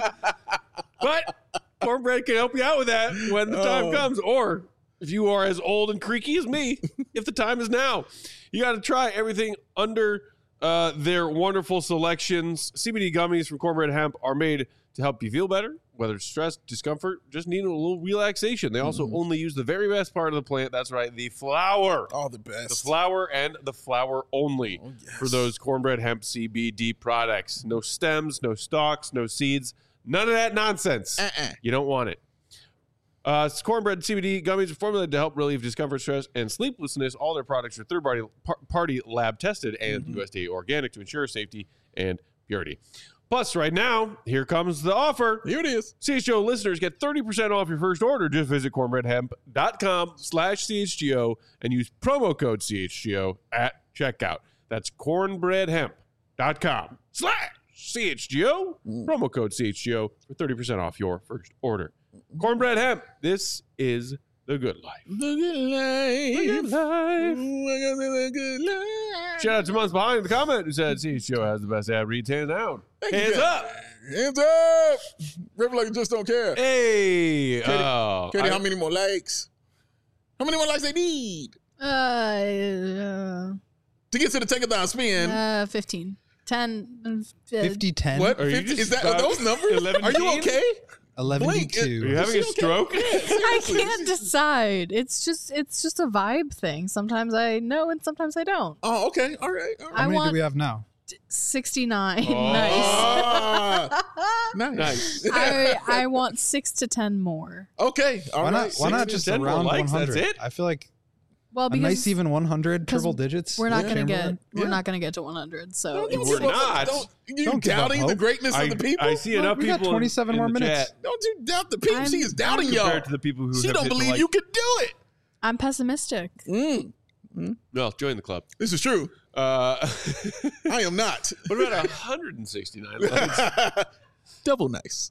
But Cornbread can help you out with that when the time Oh. comes. Or if you are as old and creaky as me, if the time is now, you got to try everything under uh, their wonderful selections. C B D gummies from Cornbread Hemp are made to help you feel better, whether it's stress, discomfort, just need a little relaxation. They also Mm-hmm. only use the very best part of the plant. That's right, the flower. All the best. The flower and the flower only Oh, yes. for those Cornbread Hemp C B D products. No stems, no stalks, no seeds, none of that nonsense. Uh-uh. You don't want it. Uh, it's Cornbread C B D gummies are formulated to help relieve discomfort, stress, and sleeplessness. All their products are third-party par- party lab tested and Mm-hmm. U S D A organic to ensure safety and purity. Plus, right now, here comes the offer. Here it is. C H G O listeners get thirty percent off your first order. Just visit cornbreadhemp.com slash CHGO and use promo code C H G O at checkout. That's cornbreadhemp.com slash CHGO. Promo code C H G O for thirty percent off your first order. Cornbread Hemp. This is the good life. The good life. The good life. Ooh, I got the good life. Shout out to Months Behind the comment who said C H G O has the best ad reads hands down. Thank you, Hands guys. up. Hands up. River like just don't care. Hey. Katie, oh, Katie, I- how many more likes? How many more likes they need Uh, uh, to get to the take-a-thon spin? uh, fifteen. ten. uh, fifty ten, What? Are you fifty just is that about are those numbers? eleven Are you teen? okay? eleven Blink. two. Are you having Is a she okay? stroke? Yeah, I seriously. can't decide. It's just it's just a vibe thing. Sometimes I know and sometimes I don't. Oh, okay. All right. All How right. I many want do we have now? sixty-nine. Oh. Nice. Ah, nice. Nice. I I want six to ten more. Okay. All why right. not? Why not six just to ten more around likes, one that's hundred? it? I feel like Well, a because nice even one hundred, 'cause triple digits. we're not with gonna get Chamberlain. we're Yeah. not gonna get to one hundred. So Don't it's- We're give up. not. Don't, you Don't give up doubting the hope. greatness I, of the people? I see enough we got people in- twenty-seven in more the minutes. chat Don't you doubt the people? I'm- She is doubting compared y'all. to the people who She have don't hit the believe like. you can do it. I'm pessimistic. Mm, Well, join the club. this is true. Uh, I am not. what about one hundred sixty-nine likes? Double nice.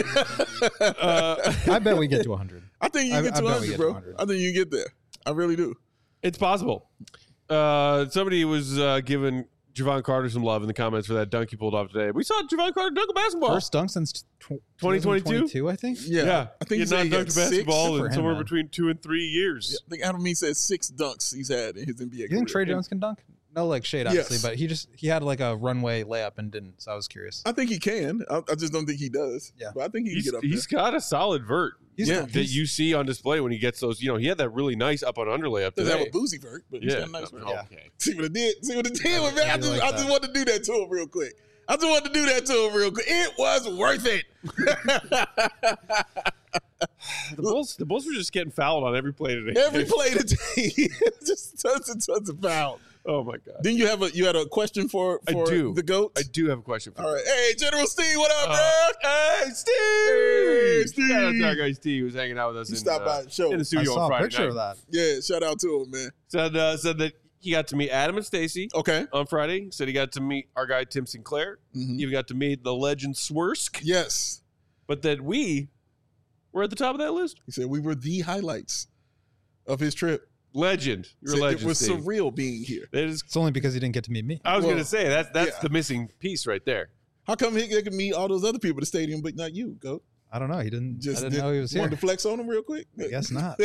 Uh, I bet we get to one hundred. I think you I- get I to bet we 100, get bro. to one hundred. I think you get there. I really do. it's possible. Uh, somebody was uh, giving Javon Carter some love in the comments for that dunk he pulled off today. We saw Javon Carter dunk a basketball. First dunk since tw- twenty twenty-two? twenty twenty-two, I think. Yeah. yeah, I think he he had said not he had dunked six. basketball Good for in him, somewhere man. between two and three years. I think Adam Mee said six dunks he's had in his N B A You think Trey career. Jones can dunk? No, like shade, obviously, Yes. but he just he had like a runway layup and didn't. So I was curious. I think he can. I, I just don't think he does. Yeah. But I think he can He's, get up he's got a solid vert He's, Yeah. that you see on display when he gets those. You know, he had that really nice up and under layup there. Doesn't today. have a boozy vert, but he's Yeah. got a nice vert. Yeah. Okay. See what it did? See what it did with me? I I do just, like I that. just wanted to do that to him real quick. I just wanted to do that to him real quick. It was worth it. The Bulls, the Bulls were just getting fouled on every play today. Every play today, just tons and tons of foul. Oh my god. Then you have a you had a question for I for do. the goat. I do have a question for All you. right. Hey, General Steve, what up, Uh, bro? Hey, Steve! Hey, Steve. Shout out to our guy Steve, who's hanging out with us You in, stopped uh, by the show. in the I studio saw on a Friday picture night. of that. Yeah, shout out to him, man. Said, uh, said that he got to meet Adam and Stacy Okay. on Friday. Said he got to meet our guy Tim Sinclair. Mhm. Even got to meet the legend Swersk. Yes. But that we were at the top of that list. He said we were the highlights of his trip. Legend. You're a Said legend, it was Steve. surreal being here. That is, It's only because he didn't get to meet me. I was Well, going to say, that's, that's yeah. the missing piece right there. How come he could meet all those other people at the stadium, but not you, Goat? I don't know. He didn't. Just I didn't did- know he was here. Wanted to flex on him real quick? I guess not.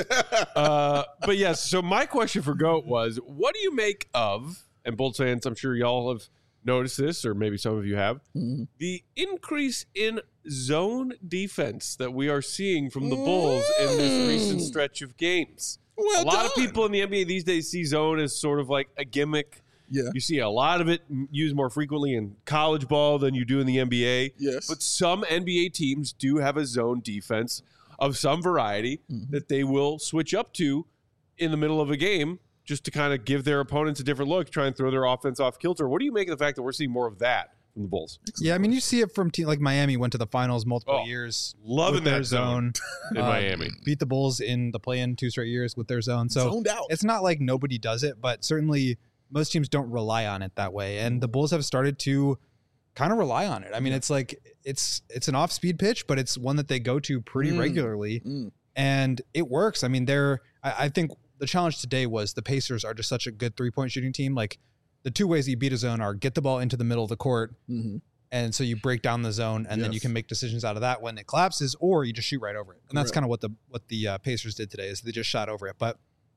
Uh, but yes, so my question for Goat was, what do you make of, and Bolts fans, I'm sure y'all have noticed this, or maybe some of you have, Mhm. the increase in zone defense that we are seeing from the Bulls in this recent Mm. stretch of games. Well a lot of done. people in the N B A these days see zone as sort of like a gimmick. Yeah. You see a lot of it used more frequently in college ball than you do in the N B A. Yes. But some N B A teams do have a zone defense of some variety Mhm. that they will switch up to in the middle of a game just to kind of give their opponents a different look, try and throw their offense off kilter. What do you make of the fact that we're seeing more of that from the Bulls? Yeah, I mean, you see it from team like Miami went to the finals multiple Oh, years. Loving with their that zone in Uh, Miami. Beat the Bulls in the play-in two straight years with their zone. So Zoned out. it's not like nobody does it, but certainly most teams don't rely on it that way. And the Bulls have started to kind of rely on it. I mean, it's like it's it's an off-speed pitch, but it's one that they go to pretty Mm. regularly, Mm. and it works. I mean, they're I, I think the challenge today was the Pacers are just such a good three-point shooting team. Like the two ways you beat a zone are get the ball into the middle of the court, Mhm. and so you break down the zone, and then you Yes. can make decisions out of that when it collapses, or you just shoot right over it. And that's Correct. kind of what the what the uh, Pacers did today is they just shot over it. But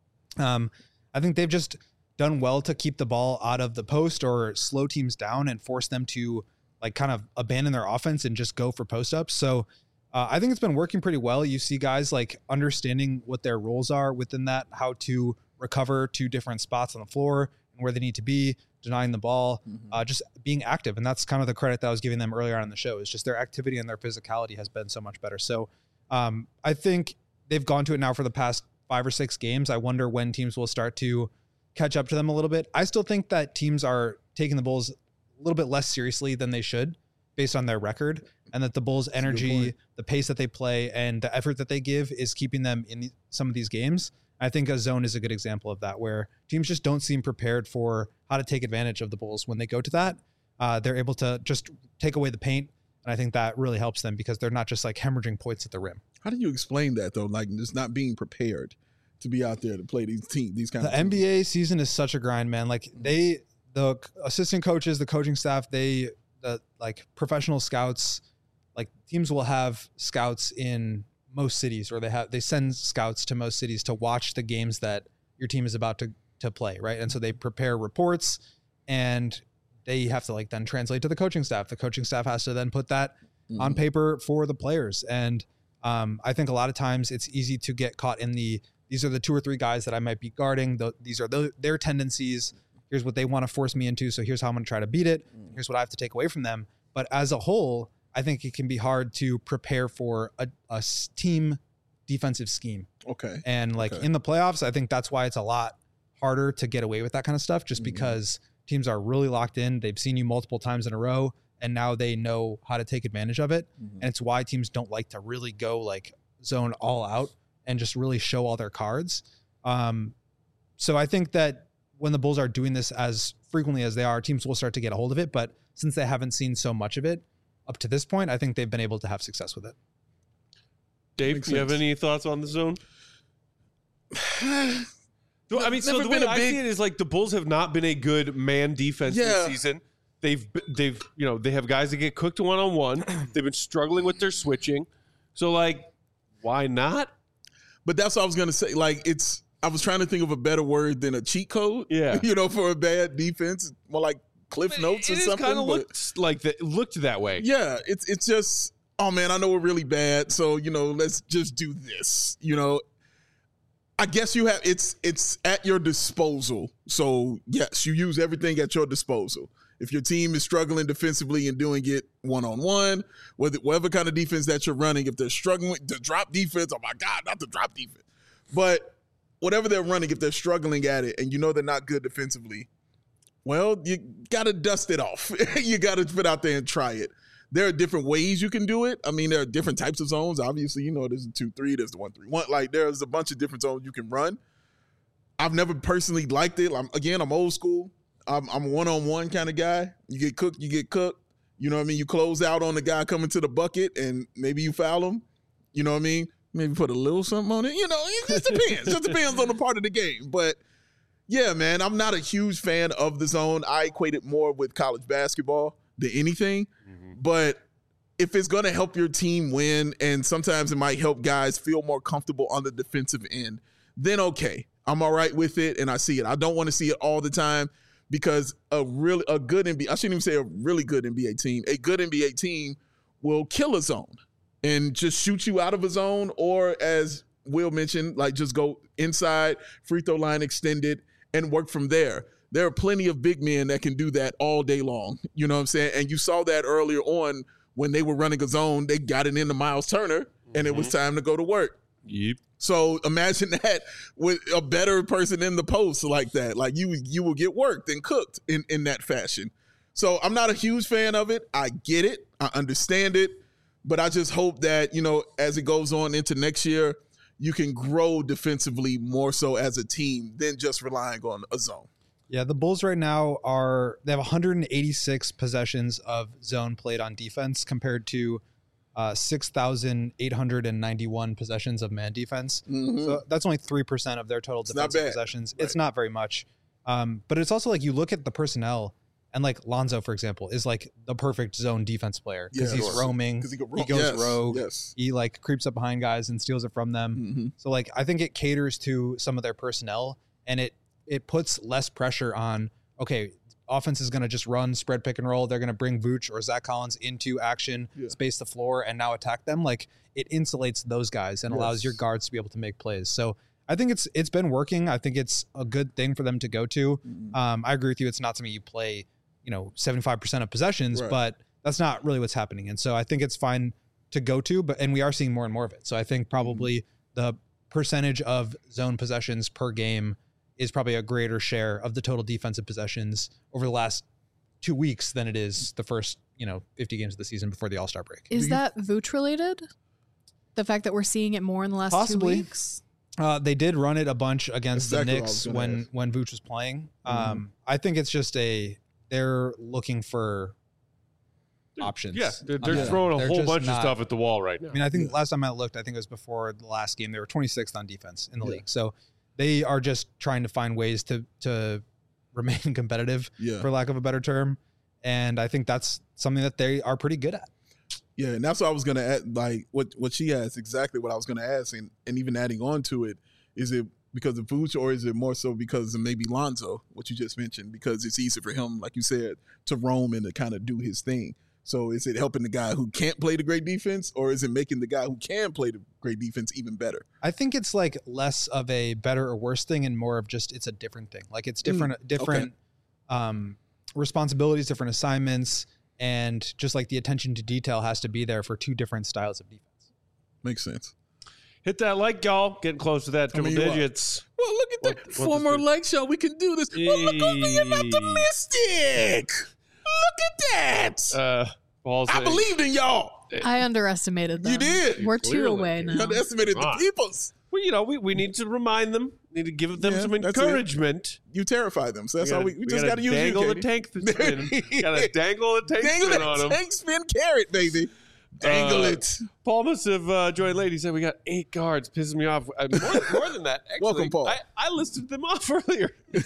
um, I think they've just done well to keep the ball out of the post or slow teams down and force them to like kind of abandon their offense and just go for post ups. So uh, I think it's been working pretty well. You see guys like understanding what their roles are within that, how to recover to different spots on the floor and where they need to be, denying the ball, Mhm. uh, just being active. And that's kind of the credit that I was giving them earlier on in the show is just their activity and their physicality has been so much better. So um, I think they've gone to it now for the past five or six games. I wonder when teams will start to catch up to them a little bit. I still think that teams are taking the Bulls a little bit less seriously than they should based on their record, and that the Bulls' a good energy, point. the pace that they play, and the effort that they give is keeping them in some of these games. I think a zone is a good example of that, where teams just don't seem prepared for how to take advantage of the Bulls when they go to that. Uh, they're able to just take away the paint, and I think that really helps them because they're not just like hemorrhaging points at the rim. How do you explain that though? Like just not being prepared to be out there to play these teams, these kind The of N teams. B A season is such a grind, man. Like they, the assistant coaches, the coaching staff, they, the like professional scouts, like teams will have scouts in most cities, or they have they send scouts to most cities to watch the games that your team is about to to play, right? And so they prepare reports, and they have to like then translate to the coaching staff. The coaching staff has to then put that on Mhm. paper for the players. And um, I think a lot of times it's easy to get caught in the, these are the two or three guys that I might be guarding. The, these are the, their tendencies. Here's what they want to force me into. So here's how I'm going to try to beat it. Here's what I have to take away from them. But as a whole, I think it can be hard to prepare for a, a s- team defensive scheme. Okay. And like Okay. in the playoffs, I think that's why it's a lot harder to get away with that kind of stuff, just Mhm. because teams are really locked in. They've seen you multiple times in a row, and now they know how to take advantage of it. Mhm. And it's why teams don't like to really go like zone all out and just really show all their cards. Um, so I think that when the Bulls are doing this as frequently as they are, teams will start to get a hold of it. But since they haven't seen so much of it up to this point, I think they've been able to have success with it. Dave, Makes do you have sense. any thoughts on the zone? So, I mean, so Never the way been a I big- see it is like the Bulls have not been a good man defense Yeah. this season. They've they've you know they have guys that get cooked one on one. They've been struggling with their switching. So like, why not? But that's what I was gonna say. Like it's, I was trying to think of a better word than a cheat code. Yeah. you know, for a bad defense, more like Cliff Notes it or is something. kind of but- looked like that. Looked that way. Yeah, it's it's just, oh man, I know we're really bad, so you know, let's just do this. You know, I guess you have it's it's at your disposal. So yes, you use everything at your disposal. If your team is struggling defensively and doing it one on one, whether whatever kind of defense that you're running, if they're struggling with the drop defense, oh my God, not the drop defense, but whatever they're running, if they're struggling at it and you know they're not good defensively, Well, you got to dust it off. You got to put out there and try it. There are different ways you can do it. I mean, there are different types of zones. Obviously, you know, there's a two three, there's the one three one. Like, there's a bunch of different zones you can run. I've never personally liked it. I'm, again, I'm old school. I'm, I'm a one-on-one kind of guy. You get cooked, you get cooked. You know what I mean? You close out on the guy coming to the bucket, and maybe you foul him. You know what I mean? Maybe put a little something on it. You know, it just depends. It just depends on the part of the game. But, yeah, man, I'm not a huge fan of the zone. I equate it more with college basketball than anything. Mm-hmm. But if it's going to help your team win, and sometimes it might help guys feel more comfortable on the defensive end, then okay. I'm all right with it, and I see it. I don't want to see it all the time because a really a good N B A, I shouldn't even say a really good N B A team, a good N B A team will kill a zone and just shoot you out of a zone, or as Will mentioned, like just go inside, free throw line extended, and work from there. There are plenty of big men that can do that all day long. You know what I'm saying? And you saw that earlier on when they were running a zone. They got it into Miles Turner, mm-hmm. and it was time to go to work. Yep. So imagine that with a better person in the post like that. Like you you will get worked and cooked in, in that fashion. So I'm not a huge fan of it. I get it. I understand it. But I just hope that, you know, as it goes on into next year, you can grow defensively more so as a team than just relying on a zone. Yeah, the Bulls right now are, they have one hundred eighty-six possessions of zone played on defense compared to uh, six thousand eight hundred ninety-one possessions of man defense. Mm-hmm. So that's only three percent of their total it's defensive possessions. Right. It's not very much. Um, but it's also like you look at the personnel, and like Lonzo, for example, is like the perfect zone defense player because yeah, he's roaming, he, ro- he goes yes, rogue, yes. he like creeps up behind guys and steals it from them. Mm-hmm. So like I think it caters to some of their personnel, and it it puts less pressure on, okay, offense is going to just run spread pick and roll. They're going to bring Vooch or Zach Collins into action, yeah. space the floor, and now attack them. Like it insulates those guys and yes. allows your guards to be able to make plays. So I think it's it's been working. I think it's a good thing for them to go to. Mm-hmm. Um, I agree with you. It's not something you play, you know, seventy-five percent of possessions, right. but that's not really what's happening. And so I think it's fine to go to, but and we are seeing more and more of it. So I think probably mm-hmm. the percentage of zone possessions per game is probably a greater share of the total defensive possessions over the last two weeks than it is the first, you know, fifty games of the season before the All-Star break. Is that Vooch related? The fact that we're seeing it more in the last Possibly. two weeks? Uh, they did run it a bunch against exactly the Knicks when, ask. when Vooch was playing. Mm-hmm. Um, I think it's just a, they're looking for options. Yeah, they're, they're yeah. throwing a they're whole bunch not, of stuff at the wall right now. I mean, I think yeah. last time I looked, I think it was before the last game, they were twenty-sixth on defense in the yeah. league. So they are just trying to find ways to to remain competitive, yeah. for lack of a better term. And I think that's something that they are pretty good at. Yeah, and that's what I was going to add. Like, what, what she asked, exactly what I was going to ask. And, and even adding on to it, is it because of Vooch or is it more so because of maybe Lonzo, what you just mentioned? Because it's easy for him, like you said, to roam and to kind of do his thing. So is it helping the guy who can't play the great defense, or is it making the guy who can play the great defense even better? I think it's like less of a better or worse thing and more of just it's a different thing. Like it's different, mm, different okay. um, responsibilities, different assignments, and just like the attention to detail has to be there for two different styles of defense. Makes sense. Hit that like, y'all. Getting close to that triple I mean, digits. Well, look at that. What, Four more likes, y'all. We can do this. Hey. Well, look over being optimistic. Look at that. Uh, Paul's I saying, believed in y'all. I underestimated them. You did. We're two Clearly. away now. You underestimated right. the peoples. Well, you know, we, we need to remind them, need to give them yeah, some encouragement. You terrify them. So that's we gotta, how we, we, we just got to use dangle you, the tank spin. Got to dangle the tank dangle spin on that them. Tank spin carrot, baby. Dangle uh, it. Paul must have uh, joined late. He said we got eight guards. Pisses me off. Uh, more, more than that, actually. Welcome, Paul. I, I listed them off earlier.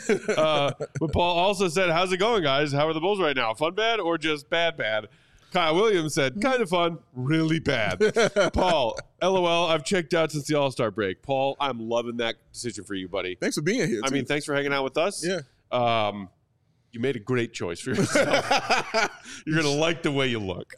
uh, but Paul also said, how's it going, guys? How are the Bulls right now? Fun bad or just bad bad? Kyle Williams said, kind of fun, really bad. Paul, LOL, I've checked out since the All-Star break. Paul, I'm loving that decision for you, buddy. Thanks for being here, I too. mean, thanks for hanging out with us. Yeah. Um, you made a great choice for yourself. You're going to like the way you look.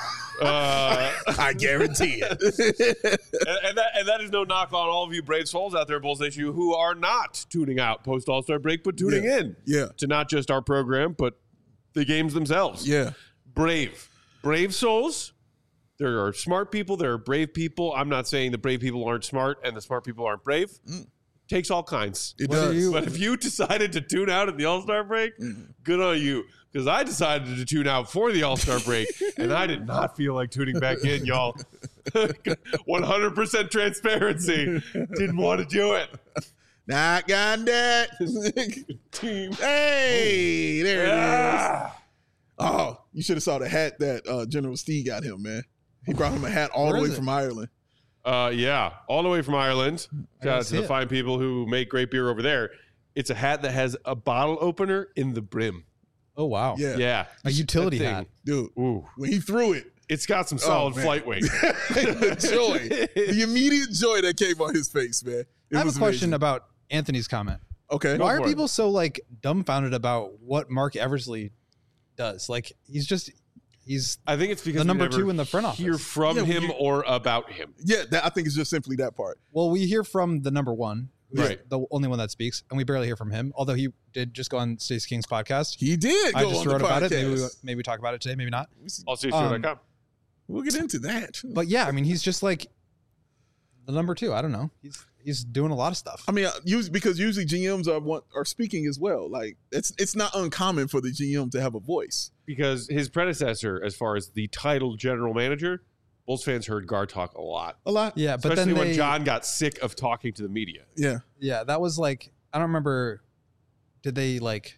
Uh, I guarantee it. and, and, that, and that is no knock on all of you brave souls out there, Bulls Nation, who are not tuning out post All-Star break, but tuning yeah. in yeah. to not just our program, but the games themselves. Yeah. Brave. Brave souls. There are smart people. There are brave people. I'm not saying the brave people aren't smart and the smart people aren't brave. Mm. takes all kinds. It What are does. you- But if you decided to tune out at the All-Star break, Mhm. good on you. Because I decided to tune out for the All-Star break, and I did not feel like tuning back in, y'all. one hundred percent transparency. Didn't want to do it. Not got that. Team. Hey, there it is. Ah. Oh, you should have saw the hat that uh, General Steve got him, man. He brought him a hat all Where the way is it? from Ireland. Uh, yeah, all the way from Ireland. I Shout out don't to see the it. fine people who make great beer over there. It's a hat that has a bottle opener in the brim. Oh wow. Yeah, Yeah. A utility That thing. hat. dude. Ooh. When he threw it, It's got some solid man. flight weight. the joy, the immediate joy that came on his face, man. It I have a was question amazing. about Anthony's comment. Okay, Go Why are for it. people so like dumbfounded about what Mark Eversley does? Like he's just he's I think it's because The we number never two in the front hear office. from Yeah, we him hear- or about him. yeah, that, I think it's just simply that part. well, we hear from the number one, who's Right. the only one that speaks, and we barely hear from him. Although he did just go on Stacey King's podcast. He did. Go I just on the wrote about it. podcast. Maybe we, maybe we talk about it today. Maybe not. I'll see you soon. Um, We'll get into that. But yeah, I mean, he's just like the number two. I don't know. He's he's doing a lot of stuff. I mean, uh, usually, because usually G Ms are want, are speaking as well. Like it's it's not uncommon for the G M to have a voice. Because his predecessor, as far as the title general manager, Bulls fans heard Gar talk a lot. A lot. Yeah, but Especially then when they, John got sick of talking to the media. Yeah. yeah, that was like I don't remember. Did they like?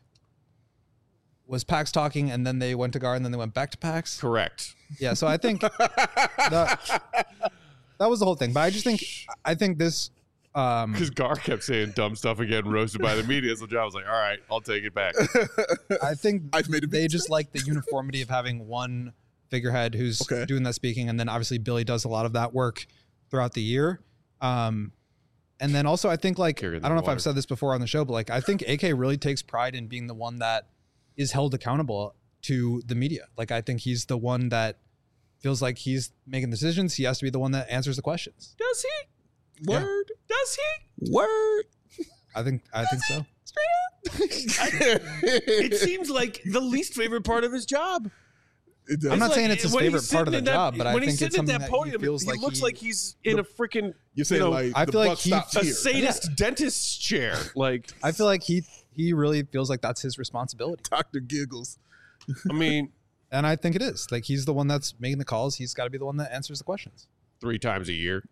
Was Pax talking and then they went to Gar and then they went back to Pax? Correct. Yeah, so I think that, that was the whole thing. But I just think I think this um Because Gar kept saying dumb stuff and getting roasted by the media. So John was like, all right, I'll take it back. I think I've made a they big just like the uniformity of having one figurehead who's Okay. doing that speaking, and then obviously Billy does a lot of that work throughout the year. Um and then also I think like I Carrying don't the know if water. I've said this before on the show, but like I think A K really takes pride in being the one that is held accountable to the media. Like I think he's the one that feels like he's making decisions. He has to be the one that answers the questions. Does he? Yeah. Word. Does he? Word. I think I think so. It seems like the least favorite part of his job. It does. I'm not Like, saying it's his when he's favorite part of sitting the in that- job, but I when think he's it's sitting something at that that podium, he feels he like looks he, like he's in a freaking You're saying you know, like I the feel like buck he- stops a here. sadist dentist's chair. Like, I feel like he he really feels like that's his responsibility. Doctor giggles. I mean, And I think it is. Like he's the one that's making the calls. He's got to be the one that answers the questions. three times a year.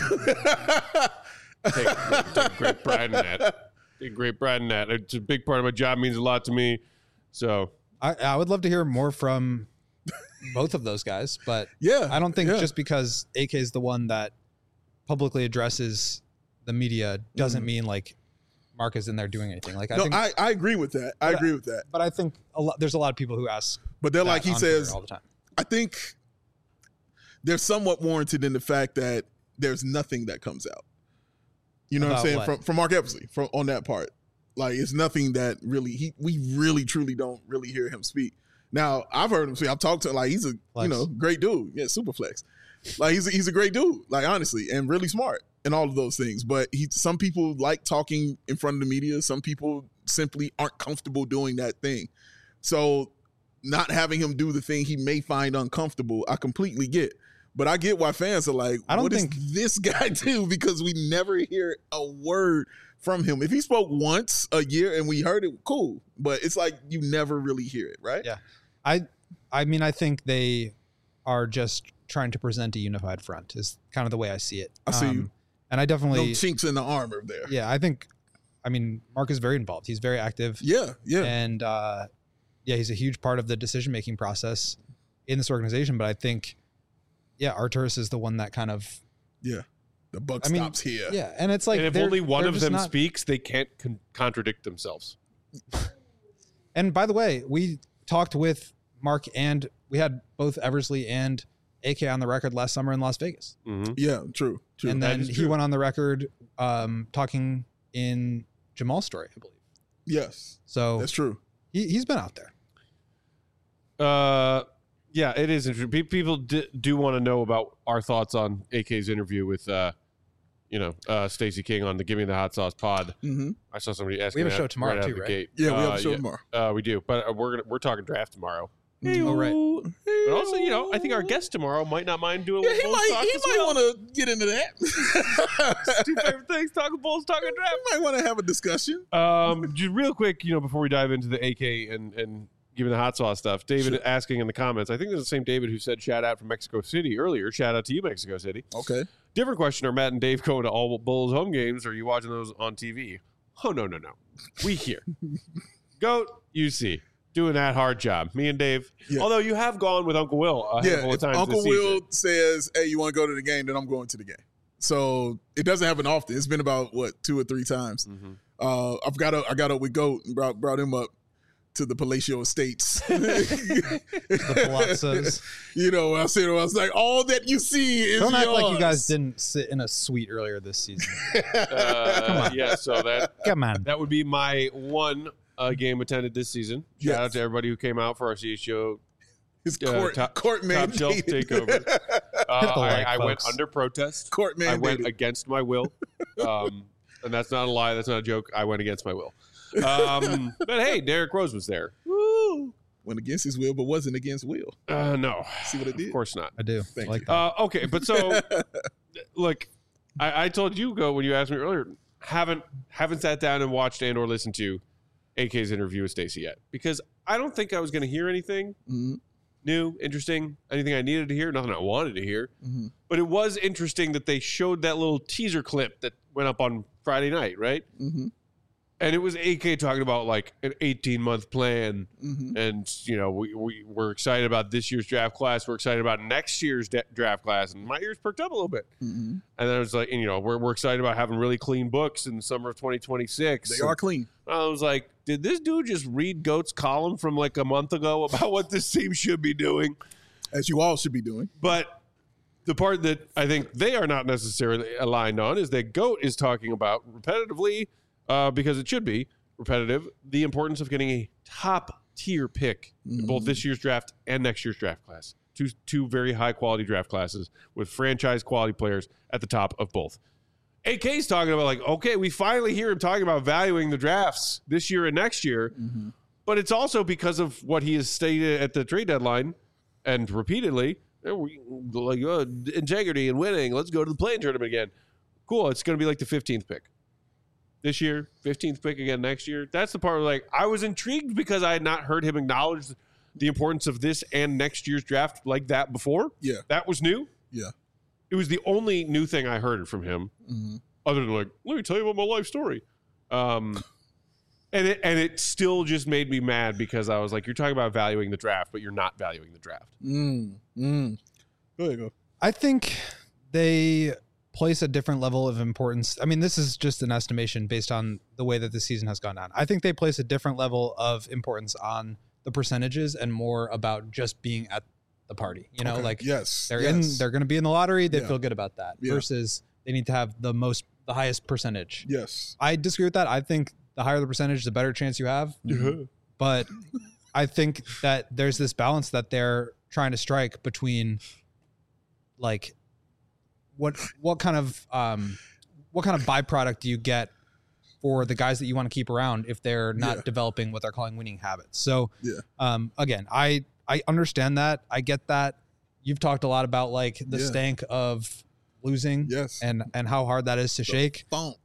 Take, take great pride in that. Take great pride in that. It's a big part of my job. Means a lot to me. So I, I would love to hear more from both of those guys, but Yeah. I don't think yeah. just because A K is the one that publicly addresses the media doesn't Mhm. mean like Mark is in there doing anything. Like I No, think, I, I agree with that. I But I- agree with that. but I think a lot, there's a lot of people who ask. But then, that like he on Twitter says, all the time. I think they're somewhat warranted in the fact that there's nothing that comes out. You know what I'm About saying? what? From from Mark Eversley, from on that part. Like it's nothing that really he we really truly don't really hear him speak. Now, I've heard him speak. I've talked to like he's a Flex. you know, great dude. Yeah, super flex. Like he's a, he's a great dude, like honestly, and really smart and all of those things. But he some people like talking in front of the media. Some people simply aren't comfortable doing that thing. So not having him do the thing he may find uncomfortable, I completely get. But I get why fans are like, I don't what think- does this guy do? Because we never hear a word from him. If he spoke once a year and we heard it, cool. But it's like you never really hear it, right? Yeah. I I mean I think they are just trying to present a unified front is kind of the way I see it. I see you. And I No definitely chinks in the armor there. yeah, I think I mean Mark is very involved. He's very active. Yeah, yeah. And uh yeah, he's a huge part of the decision making process in this organization. But I think yeah, Arturis is the one that kind of yeah. The buck I mean, stops here. yeah, and it's like and if they're- only one they're of just them not- speaks, they can't con- contradict themselves. And by the way, we talked with Mark and we had both Eversley and A K on the record last summer in Las Vegas. Mm-hmm. Yeah, true. True. And That then is he true. went on the record um, talking in Jamal's story, I believe. yes. So That's true. he, he's been out there. Uh, yeah, it is interesting. Pe- People d- do want to know about our thoughts on A K's interview with, uh, you know, uh, Stacey King on the Give Me the Hot Sauce pod. Mm-hmm. I saw somebody asking. We have a that show tomorrow right out too, the right? Gate. Yeah, we have Uh, a show yeah, tomorrow. Uh, we do, but uh, we're gonna we're talking draft tomorrow. Hey-o. Oh, right. But also, you know, I think our guest tomorrow might not mind doing a Yeah, little he Bulls might talk he as might well. want to get into that. Two favorite things: talking Bulls, talking draft. He might want to have a discussion. Um, just real quick, you know, before we dive into the A K and and giving the hot sauce stuff, David Sure. asking in the comments. I think it's the same David who said shout out from Mexico City earlier. Shout out to you, Mexico City. Okay. Different question: are Matt and Dave going to all Bulls home games? Or are you watching those on T V? Oh no, no, no. We here. Goat, you see. Doing that hard job. Me and Dave. Yeah. Although you have gone with Uncle Will a Yeah, handful of if times Uncle this Will season. says, "Hey, you want to go to the game?" Then I'm going to the game. So it doesn't happen often. It's been about what two or three times. Mm-hmm. Uh, I've got up, I got up with Goat and brought brought him up to the Palatial Estates. The Palazzos. You know, I said, I was like, all that you see is Don't act like you yours. guys didn't sit in a suite earlier this season. Uh, Come on. Yeah, so that Come on. that would be my one uh, game attended this season. Shout Yes. out to everybody who came out for our C H G O His uh, court, top- court top shelf mandated. takeover. Uh, Hit the I, like, I went folks. under protest. Court I went mandated. against my will. Um, and that's not a lie. That's not a joke. I went against my will. Um, but hey, Derrick Rose was there. Woo! Went against his will, but wasn't against Will. Uh, no, See what I did? of course not. I do. Thank like you. that. Uh, okay, but so look, I, I told you go when you asked me earlier. Haven't haven't sat down and watched and or listened to A K's interview with Stacey yet because I don't think I was going to hear anything Mhm, new, interesting, anything I needed to hear, nothing I wanted to hear. mhm. But it was interesting that they showed that little teaser clip that went up on Friday night, right? Mhm, And it was A K talking about like an eighteen month plan. mhm. And, you know, we, we, we're excited about this year's draft class. We're excited about next year's de- draft class. And my ears perked up a little bit. Mhm. And then I was like, and, you know, we're, we're excited about having really clean books in the summer of twenty twenty-six. They are clean. And I was like, did this dude just read Goat's column from like a month ago about what this team should be doing? As you all should be doing. But the part that I think they are not necessarily aligned on is that Goat is talking about repetitively, uh, because it should be repetitive, the importance of getting a top tier pick in both this year's draft and next year's draft class. Two two very high quality draft classes with franchise quality players at the top of both. A K's talking about like, okay, we finally hear him talking about valuing the drafts this year and next year, Mhm. but it's also because of what he has stated at the trade deadline and repeatedly, eh, we- like uh, integrity and winning. Let's go to the play-in tournament again. Cool. It's going to be like the fifteenth pick this year, fifteenth pick again next year. That's the part where like I was intrigued because I had not heard him acknowledge the importance of this and next year's draft like that before. Yeah. That was new. Yeah. It was the only new thing I heard from him, Mhm. other than like, let me tell you about my life story. Um, and it and it still just made me mad because I was like, you're talking about valuing the draft, but you're not valuing the draft. Mm, mm. There you go. I think they place a different level of importance. I mean, this is just an estimation based on the way that the season has gone on. I think they place a different level of importance on the percentages and more about just being at the party. You know, Okay. like yes, they're yes. in, they're going to be in the lottery. They Yeah. feel good about that Yeah. versus they need to have the most, the highest percentage. yes. I disagree with that. I think the higher the percentage, the better chance you have. But I think that there's this balance that they're trying to strike between like what what kind of um what kind of byproduct do you get for the guys that you want to keep around if they're not Yeah. developing what they're calling winning habits. So Yeah. um again, I I understand that. I get that. You've talked a lot about like the Yeah. stank of losing Yes. and and how hard that is to shake. Funk.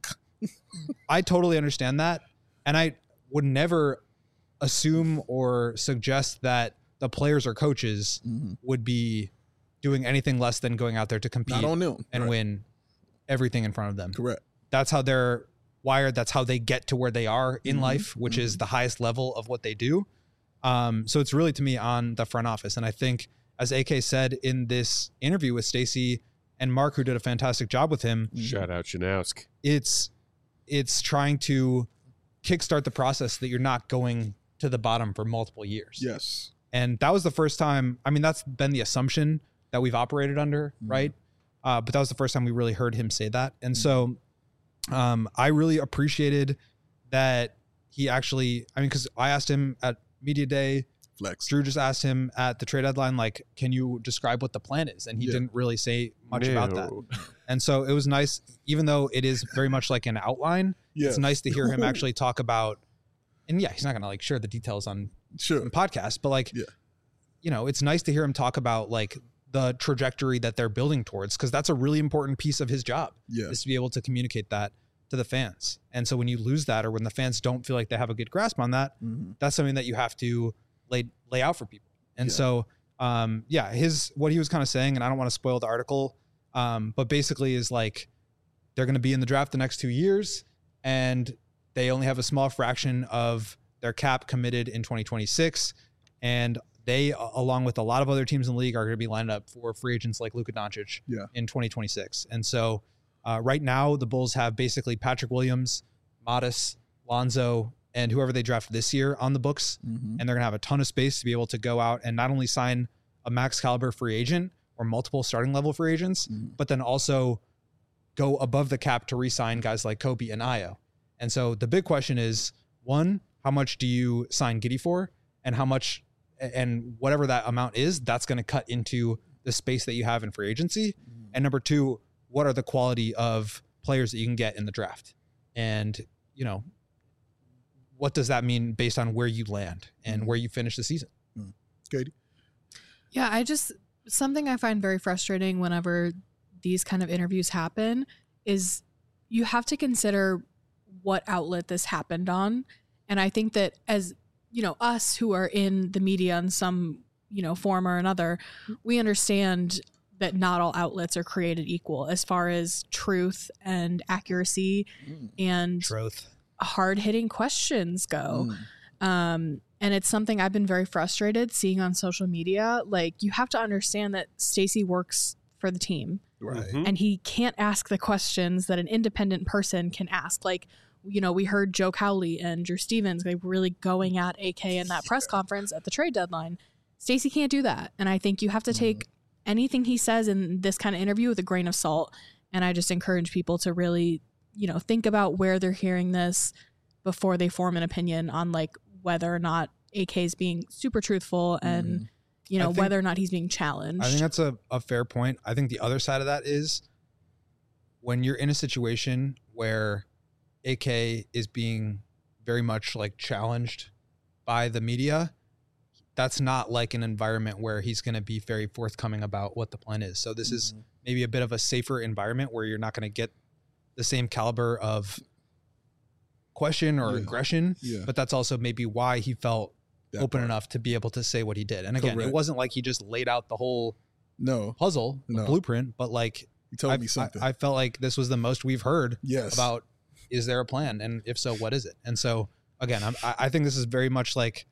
I totally understand that. And I would never assume or suggest that the players or coaches Mhm. would be doing anything less than going out there to compete Not on them. and Right. win everything in front of them. Correct. That's how they're wired. That's how they get to where they are in Mhm. life, which is the highest level of what they do. Um, so it's really to me on the front office. And I think, as A K said in this interview with Stacey and Mark, who did a fantastic job with him, Shout out Shanowsk. it's it's trying to kickstart the process that you're not going to the bottom for multiple years. Yes. And that was the first time. I mean, that's been the assumption that we've operated under, Mhm. right? Uh, but that was the first time we really heard him say that. And so um, I really appreciated that he actually, I mean, because I asked him at Media Day, Flex. Drew just asked him at the trade deadline, like, can you describe what the plan is? And he Yeah. didn't really say much about that. No. And so it was nice, even though it is very much like an outline, Yes. it's nice to hear him actually talk about, and yeah, he's not going to like share the details on Sure. a podcast, but like Yeah. you know, it's nice to hear him talk about like the trajectory that they're building towards, because that's a really important piece of his job, Yeah. is to be able to communicate that to the fans. And so when you lose that, or when the fans don't feel like they have a good grasp on that, Mm-hmm. that's something that you have to lay lay out for people. And Yeah. so, um, yeah, his what he was kind of saying, and I don't want to spoil the article, um, but basically is like they're going to be in the draft the next two years, and they only have a small fraction of their cap committed in twenty twenty-six, and they, along with a lot of other teams in the league, are going to be lined up for free agents like Luka Doncic Yeah. in twenty twenty-six. And so, uh, right now, the Bulls have basically Patrick Williams, Modis, Lonzo, and whoever they draft this year on the books, Mm-hmm. and they're going to have a ton of space to be able to go out and not only sign a max caliber free agent or multiple starting level free agents, Mhm. but then also go above the cap to re-sign guys like Kobe and Ayo. And so the big question is, one, how much do you sign Giddey for, and how much, and whatever that amount is, that's going to cut into the space that you have in free agency. And number two, what are the quality of players that you can get in the draft? And, you know, what does that mean based on where you land and where you finish the season? Katie? Yeah, I just, something I find very frustrating whenever these kind of interviews happen is you have to consider what outlet this happened on. And I think that as, you know, us who are in the media in some, you know, form or another, we understand that not all outlets are created equal as far as truth and accuracy and Truth. hard hitting questions go. Mm. Um, and it's something I've been very frustrated seeing on social media. Like, you have to understand that Stacey works for the team, Right. Mhm. and he can't ask the questions that an independent person can ask. Like, you know, we heard Joe Cowley and Drew Stevens like really going at A K in that press conference at the trade deadline. Stacey can't do that. And I think you have to take anything he says in this kind of interview with a grain of salt. And I just encourage people to really, you know, think about where they're hearing this before they form an opinion on like whether or not A K is being super truthful and, you I know, think- whether or not he's being challenged. I think that's a, a fair point. I think the other side of that is when you're in a situation where A K is being very much like challenged by the media, that's not like an environment where he's going to be very forthcoming about what the plan is. So this is maybe a bit of a safer environment where you're not going to get the same caliber of question or Yeah. aggression, Yeah. but that's also maybe why he felt That open part. enough to be able to say what he did. And again, Correct. it wasn't like he just laid out the whole No. puzzle, the No. blueprint, but like He told I, me something. I, I felt like this was the most we've heard yes. about, is there a plan? And if so, what is it? And so again, I'm, I I think this is very much like,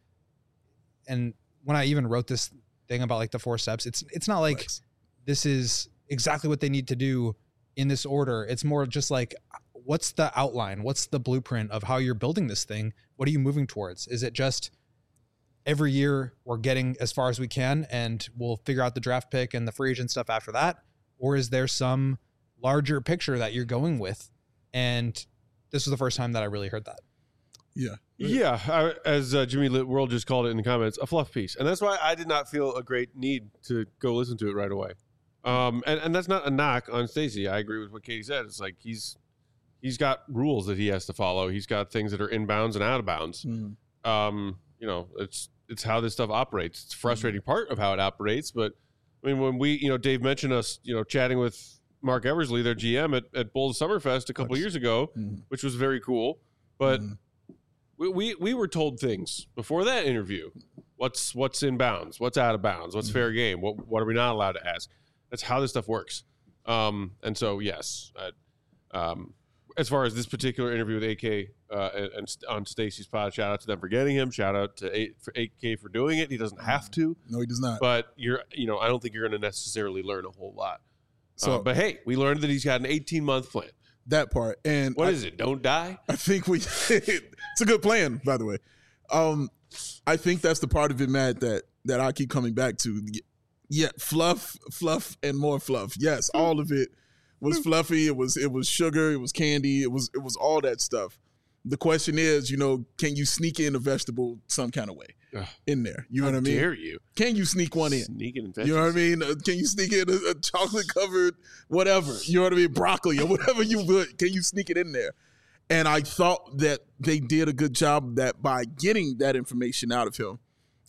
and when I even wrote this thing about like the four steps, it's, it's not like Flex. this is exactly what they need to do in this order. It's more just like, what's the outline? What's the blueprint of how you're building this thing? What are you moving towards? Is it just every year we're getting as far as we can and we'll figure out the draft pick and the free agent stuff after that? Or is there some larger picture that you're going with? And this was the first time that I really heard that. Yeah. Yeah, I, as uh, Jimmy Lit World just called it in the comments, a fluff piece, and that's why I did not feel a great need to go listen to it right away. Um, and and that's not a knock on Stacey. I agree with what Katie said. It's like he's he's got rules that he has to follow. He's got things that are in bounds and out of bounds. Mm. Um, you know, it's it's how this stuff operates. It's a frustrating part of how it operates. But I mean, when we, you know, Dave mentioned us, you know, chatting with Mark Eversley, their G M at, at Bulls Summerfest a couple Nice. years ago, Mm. which was very cool. But Mm. we, we we were told things before that interview. What's what's in bounds? What's out of bounds? What's fair game? What what are we not allowed to ask? That's how this stuff works. Um, and so yes, uh, um, as far as this particular interview with A K uh, and, and st- on Stacey's pod, shout out to them for getting him. Shout out to A- for A K for doing it. He doesn't have to, No, he does not. but you're you know I don't think you're going to necessarily learn a whole lot. So- Uh, but hey, we learned that he's got an eighteen month plan. that part. And What I, is it? Don't die. I think we it's a good plan, by the way. Um, I think that's the part of it, Matt, that that I keep coming back to. Yeah, fluff, fluff, and more fluff. Yes, all of it was fluffy. It was it was sugar. It was candy. It was it was all that stuff. The question is, you know, can you sneak in a vegetable some kind of way Ugh. in there? You know How what I mean? dare you? Can you sneak one in? Sneaking in You know what I veggies. mean? Uh, Can you sneak in a, a chocolate covered whatever? You know what I mean? Broccoli or whatever you would. Can you sneak it in there? And I thought that they did a good job of that by getting that information out of him.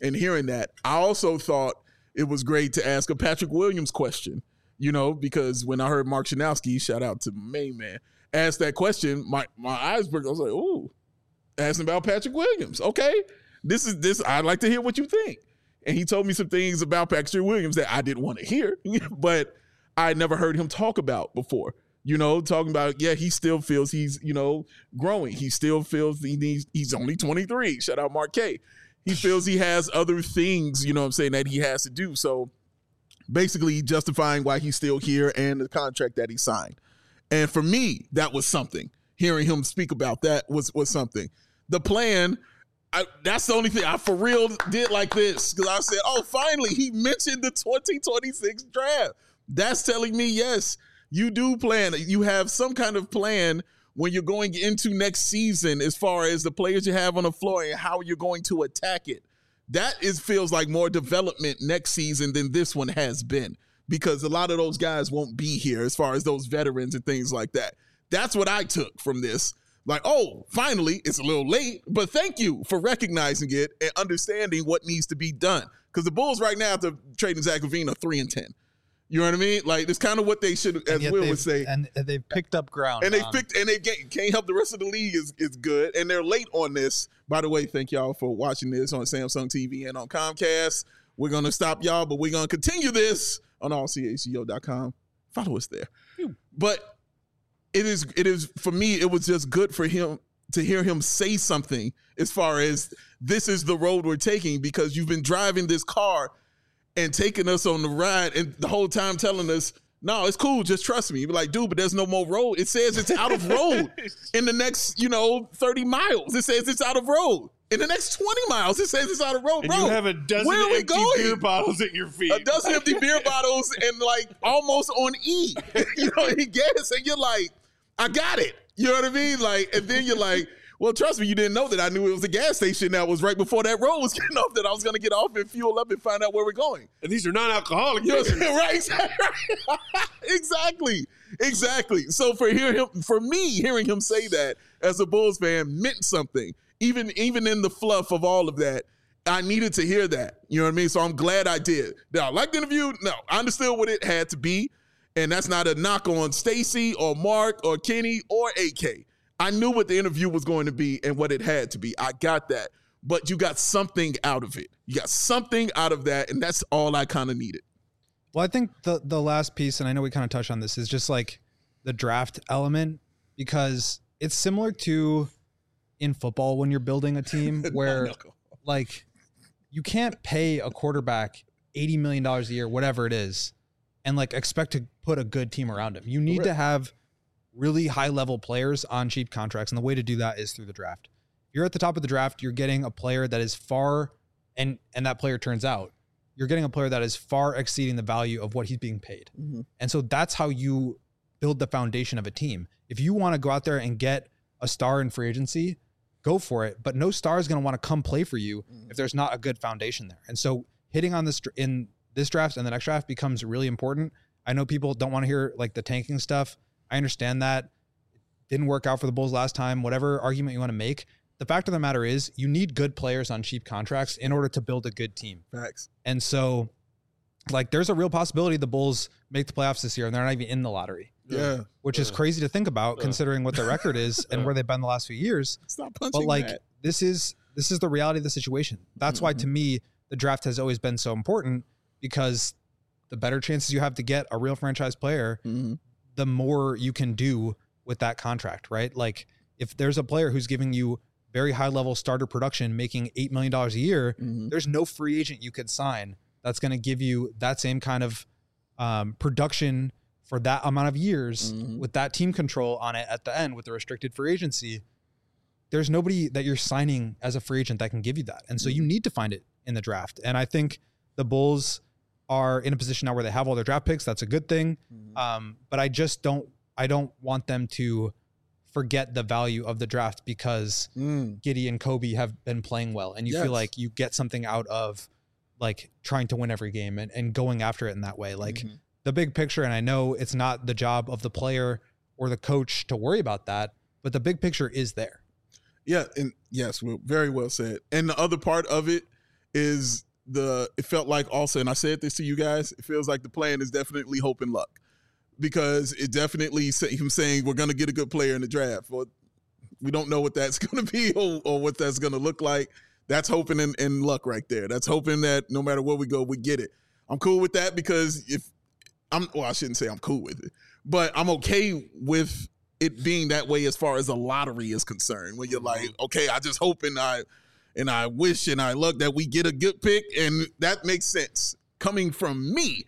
and hearing that. I also thought it was great to ask a Patrick Williams question, you know, because when I heard Mark Shanowski, shout out to my main man, ask that question, my, my eyes broke. I was like, ooh, asking about Patrick Williams. Okay, this is this. I'd like to hear what you think. And he told me some things about Patrick Williams that I didn't want to hear, but I never heard him talk about before. You know, talking about, yeah, he still feels he's, you know, growing. He still feels he needs, he's only twenty-three. Shout out Mark K. He feels he has other things, you know what I'm saying, that he has to do. So basically justifying why he's still here and the contract that he signed. And for me, that was something. Hearing him speak about that was, was something. The plan, I, that's the only thing I for real did like this. Because I said, oh, finally, he mentioned the twenty twenty-six draft. That's telling me, yes, you do plan. You have some kind of plan when you're going into next season as far as the players you have on the floor and how you're going to attack it. That is feels like more development next season than this one has been, because a lot of those guys won't be here as far as those veterans and things like that. That's what I took from this. Like, oh, finally, it's a little late, but thank you for recognizing it and understanding what needs to be done. Because the Bulls right now, after trading Zach LaVine, are three and ten. You know what I mean? Like, it's kind of what they should, as Will would say. And they've picked up ground. And they picked, and they can't help the rest of the league is is good. And they're late on this. By the way, thank y'all for watching this on Samsung T V and on Comcast. We're going to stop y'all, but we're going to continue this on all c h c o dot com. Follow us there. But it is, it is, for me, it was just good for him to hear him say something as far as this is the road we're taking, because you've been driving this car and taking us on the ride and the whole time telling us, no, it's cool, just trust me. You're like, dude, but there's no more road. It says it's out of road in the next, you know, thirty miles. It says it's out of road. In the next twenty miles, it says it's out of road. And Bro, you have a dozen where are we empty going? beer bottles at your feet. A dozen empty beer bottles and like almost on E. You know, he gas, and you're like, I got it. You know what I mean? Like, and then you're like, well, trust me, you didn't know that I knew it was a gas station that was right before that road was getting off, that I was going to get off and fuel up and find out where we're going. And these are non-alcoholic You know beers. right? Exactly. Exactly. So for hear him, for me, hearing him say that as a Bulls fan meant something. Even, even in the fluff of all of that, I needed to hear that. You know what I mean? So I'm glad I did. Now, I liked the interview. No, I understood what it had to be. And that's not a knock on Stacey or Mark or Kenny or A K. I knew what the interview was going to be and what it had to be. I got that. But you got something out of it. You got something out of that, and that's all I kind of needed. Well, I think the the last piece, and I know we kind of touched on this, is just like the draft element, because it's similar to in football when you're building a team where like you can't pay a quarterback eighty million dollars a year, whatever it is, and like expect to put a good team around him. You need Correct. to have really high level players on cheap contracts. And the way to do that is through the draft. You're at the top of the draft. You're getting a player that is far, and, and that player turns out, you're getting a player that is far exceeding the value of what he's being paid. Mm-hmm. And so that's how you build the foundation of a team. If you want to go out there and get a star in free agency, go for it. But no star is going to want to come play for you mm-hmm. if there's not a good foundation there. And so hitting on this in this draft and the next draft becomes really important. I know people don't want to hear like the tanking stuff. I understand that. It didn't work out for the Bulls last time, whatever argument you want to make. The fact of the matter is you need good players on cheap contracts in order to build a good team. Facts. And so like there's a real possibility the Bulls make the playoffs this year and they're not even in the lottery. Yeah. Which yeah. is crazy to think about yeah. considering what their record is and where they've been the last few years. Stop punching But like that. this is this is the reality of the situation. That's mm-hmm. why to me the draft has always been so important, because the better chances you have to get a real franchise player, mm-hmm. the more you can do with that contract, right? Like if there's a player who's giving you very high level starter production, making eight million dollars a year, mm-hmm. there's no free agent you could sign that's going to give you that same kind of um, production for that amount of years mm-hmm. with that team control on it at the end with the restricted free agency. There's nobody that you're signing as a free agent that can give you that. And so mm-hmm. you need to find it in the draft. And I think the Bulls are in a position now where they have all their draft picks. That's a good thing. Mm-hmm. Um, but I just don't, I don't want them to forget the value of the draft because mm. Giddey and Kobe have been playing well. And you yes. feel like you get something out of like trying to win every game and, and going after it in that way. Like mm-hmm. the big picture. And I know it's not the job of the player or the coach to worry about that, but the big picture is there. Yeah. And yes, well, very well said. And the other part of it is the. It felt like also, and I said this to you guys. It feels like the plan is definitely hope and luck, because it definitely say, him saying we're going to get a good player in the draft. Well, we don't know what that's going to be or, or what that's going to look like. That's hoping and, and luck right there. That's hoping that no matter where we go, we get it. I'm cool with that because if I'm, well, I shouldn't say I'm cool with it, but I'm okay with it being that way as far as a lottery is concerned. When you're like, okay, I just hope and I and I wish and I look that we get a good pick, and that makes sense coming from me.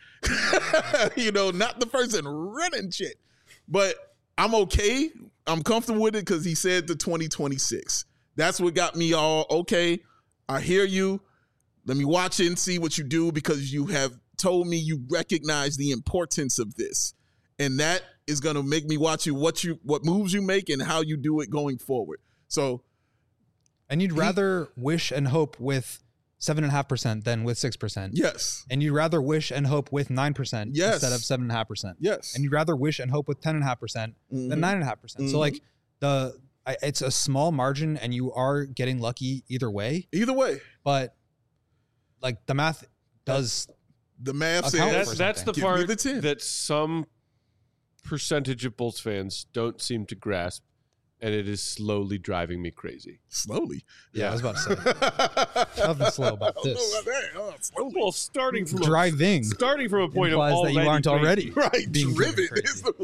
You know, not the person running shit, but I'm okay. I'm comfortable with it because he said the twenty twenty-six. That's what got me all okay. I hear you. Let me watch it and see what you do, because you have told me you recognize the importance of this, and that is going to make me watch you what you what moves you make and how you do it going forward. So, and you'd rather he, wish and hope with seven and a half percent than with six percent. Yes. And you'd rather wish and hope with nine percent yes. instead of seven and a half percent. Yes. And you'd rather wish and hope with ten and a half percent mm-hmm. than nine and a half percent. So like the I, it's a small margin, and you are getting lucky either way. Either way, but like the math does. The math says that's, that's the Give part the that some percentage of Bulls fans don't seem to grasp, and it is slowly driving me crazy. Slowly, yeah, yeah. I was about to say nothing slow about this. About that. Oh, slowly. Well, starting from driving, a, starting from a point of that you aren't crazy. already right. Being driven is the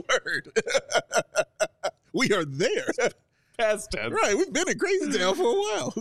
word. We are there. Past tense. Right, we've been in Crazy Town for a while.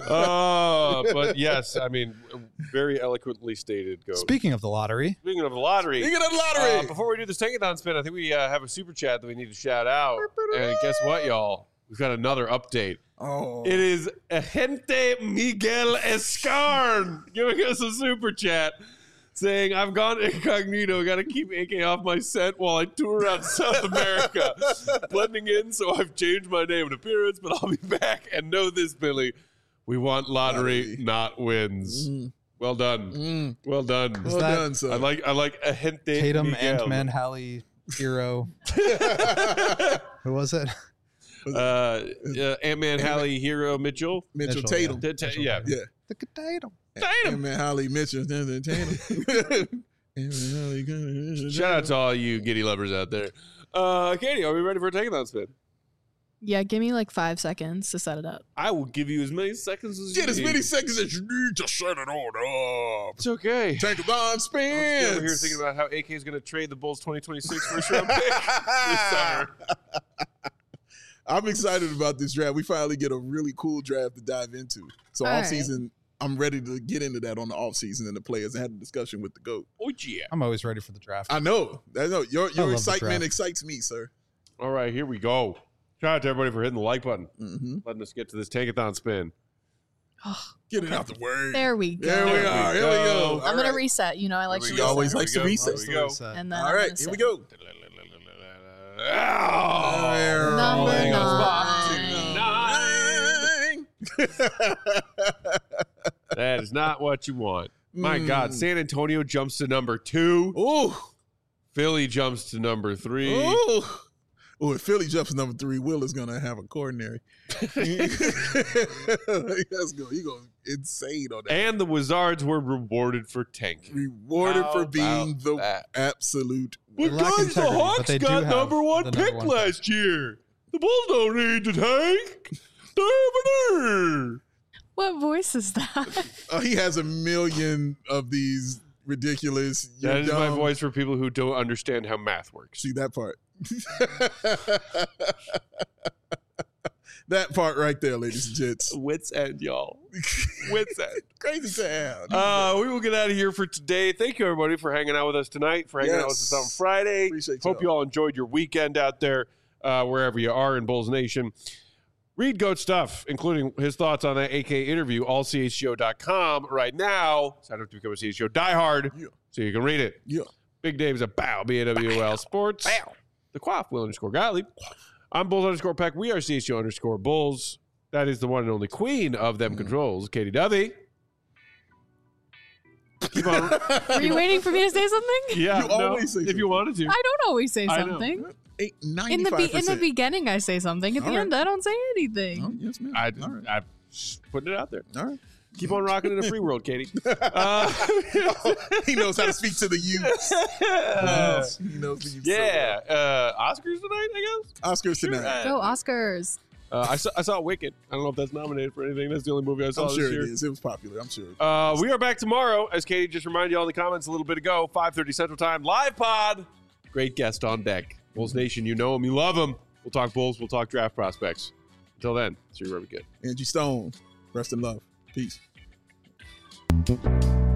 Oh, uh, but yes, I mean, very eloquently stated. Go. Speaking of the lottery. Speaking of the lottery. Speaking of the lottery. Uh, before we do this Tankathon spin, I think we uh, have a super chat that we need to shout out. And guess what, y'all? We've got another update. Oh. It is Agente Miguel Escarn giving us a super chat saying, I've gone incognito. Got to keep A K off my scent while I tour around South America. Blending in, so I've changed my name and appearance, but I'll be back. And know this, Billy. We want lottery, lottery. not wins. Mm. Well done. Mm. Well done. Well that, done, sir. I like I like Agente Tatum, Miguel. Ant-Man, Hallie, Hero. Who was it? Uh, uh, Ant-Man, Hallie, Hero, Mitchell. Mitchell, Mitchell Tatum. Yeah. T- t- yeah. yeah. The Tatum. Tatum. Ant-Man, Hallie, Mitchell, Tatum. Shout out to all you Giddy lovers out there. Uh, Katie, are we ready for a Tankathon spin? Yeah, give me like five seconds to set it up. I will give you as many seconds as Get you as need. many seconds as you need to set it on up. It's okay. Tankathon I'm spins. over here thinking about how A K is going to trade the Bulls twenty twenty-six first round pick this summer. I'm excited about this draft. We finally get a really cool draft to dive into. So All off right. season, I'm ready to get into that on the off season and the players and had a discussion with the GOAT. Oh, yeah. I'm always ready for the draft. I know. I know. Your I your love the excitement draft. excites me, sir. All right, here we go. Shout out to everybody for hitting the like button, Mm-hmm. letting us get to this Tankathon spin. Get it out the way. There we go. There we There are. we Here we go. go. I'm All gonna right. reset. You know, I like Here to we He go. always Here likes we to go. reset. Here we go. So- and then All I'm right, gonna here we say- go. Oh, Number nine. that is not what you want. My Mm. God, San Antonio jumps to number two. Ooh. Philly jumps to number three. Ooh. Ooh, if Philly jumps to number three, Will is gonna have a coronary. Let's go. He goes insane on that. And the Wizards were rewarded for tanking. Rewarded How for being about the that? absolute. They But lack guys, the integrity, but Hawks they do got have number one the pick number one last year. The Bulls don't need to tank. They're What voice is that? Uh, he has a million of these ridiculous. That is you're my dumb. voice for people who don't understand how math works. See that part. That part right there, ladies and gents. Wits end, y'all. Wits end. Crazy town. Uh, we will get out of here for today. Thank you, everybody, for hanging out with us tonight, for hanging out with us Yes. on Friday. Appreciate Hope y'all. you all enjoyed your weekend out there, uh, wherever you are in Bulls Nation. Read Goat stuff, including his thoughts on that A K interview, all C H G O dot com right now. Sign up to become a C H G O diehard Yeah. so you can read it. Yeah. Big Dave's a bow, B A W L Sports. Bow. The Quaff, Will underscore Gottlieb. I'm Bulls underscore Peck. We are C H G O underscore Bulls. That is the one and only queen of them controls, Katie Dovey. Keep on. Were you waiting for me to say something? Yeah, You no, always say if you something. wanted to. I don't always say I know. something. Eight, In the ninety-five be- in the percent. beginning, I say something. At the All right. end, I don't say anything. Oh, yes, ma'am. I, All right. I'm just putting it out there. All right. Keep on rocking in a free world, Katie. Uh, He knows how to speak to the youth. Uh, he knows the youth. yeah. Uh, Oscars tonight, I guess? Oscars Sure. tonight. Go Oscars. Uh, I, saw, I saw Wicked. I don't know if that's nominated for anything. That's the only movie I saw I'm this sure year. it is. It was popular. I'm sure. Uh, we are back tomorrow, as Katie just reminded you all in the comments a little bit ago, five thirty Central Time, live pod. Great guest on deck. Bulls Nation, you know him, you love him. We'll talk Bulls, we'll talk draft prospects. Until then, see you wherever we get. Angie Stone, rest in love. Peace.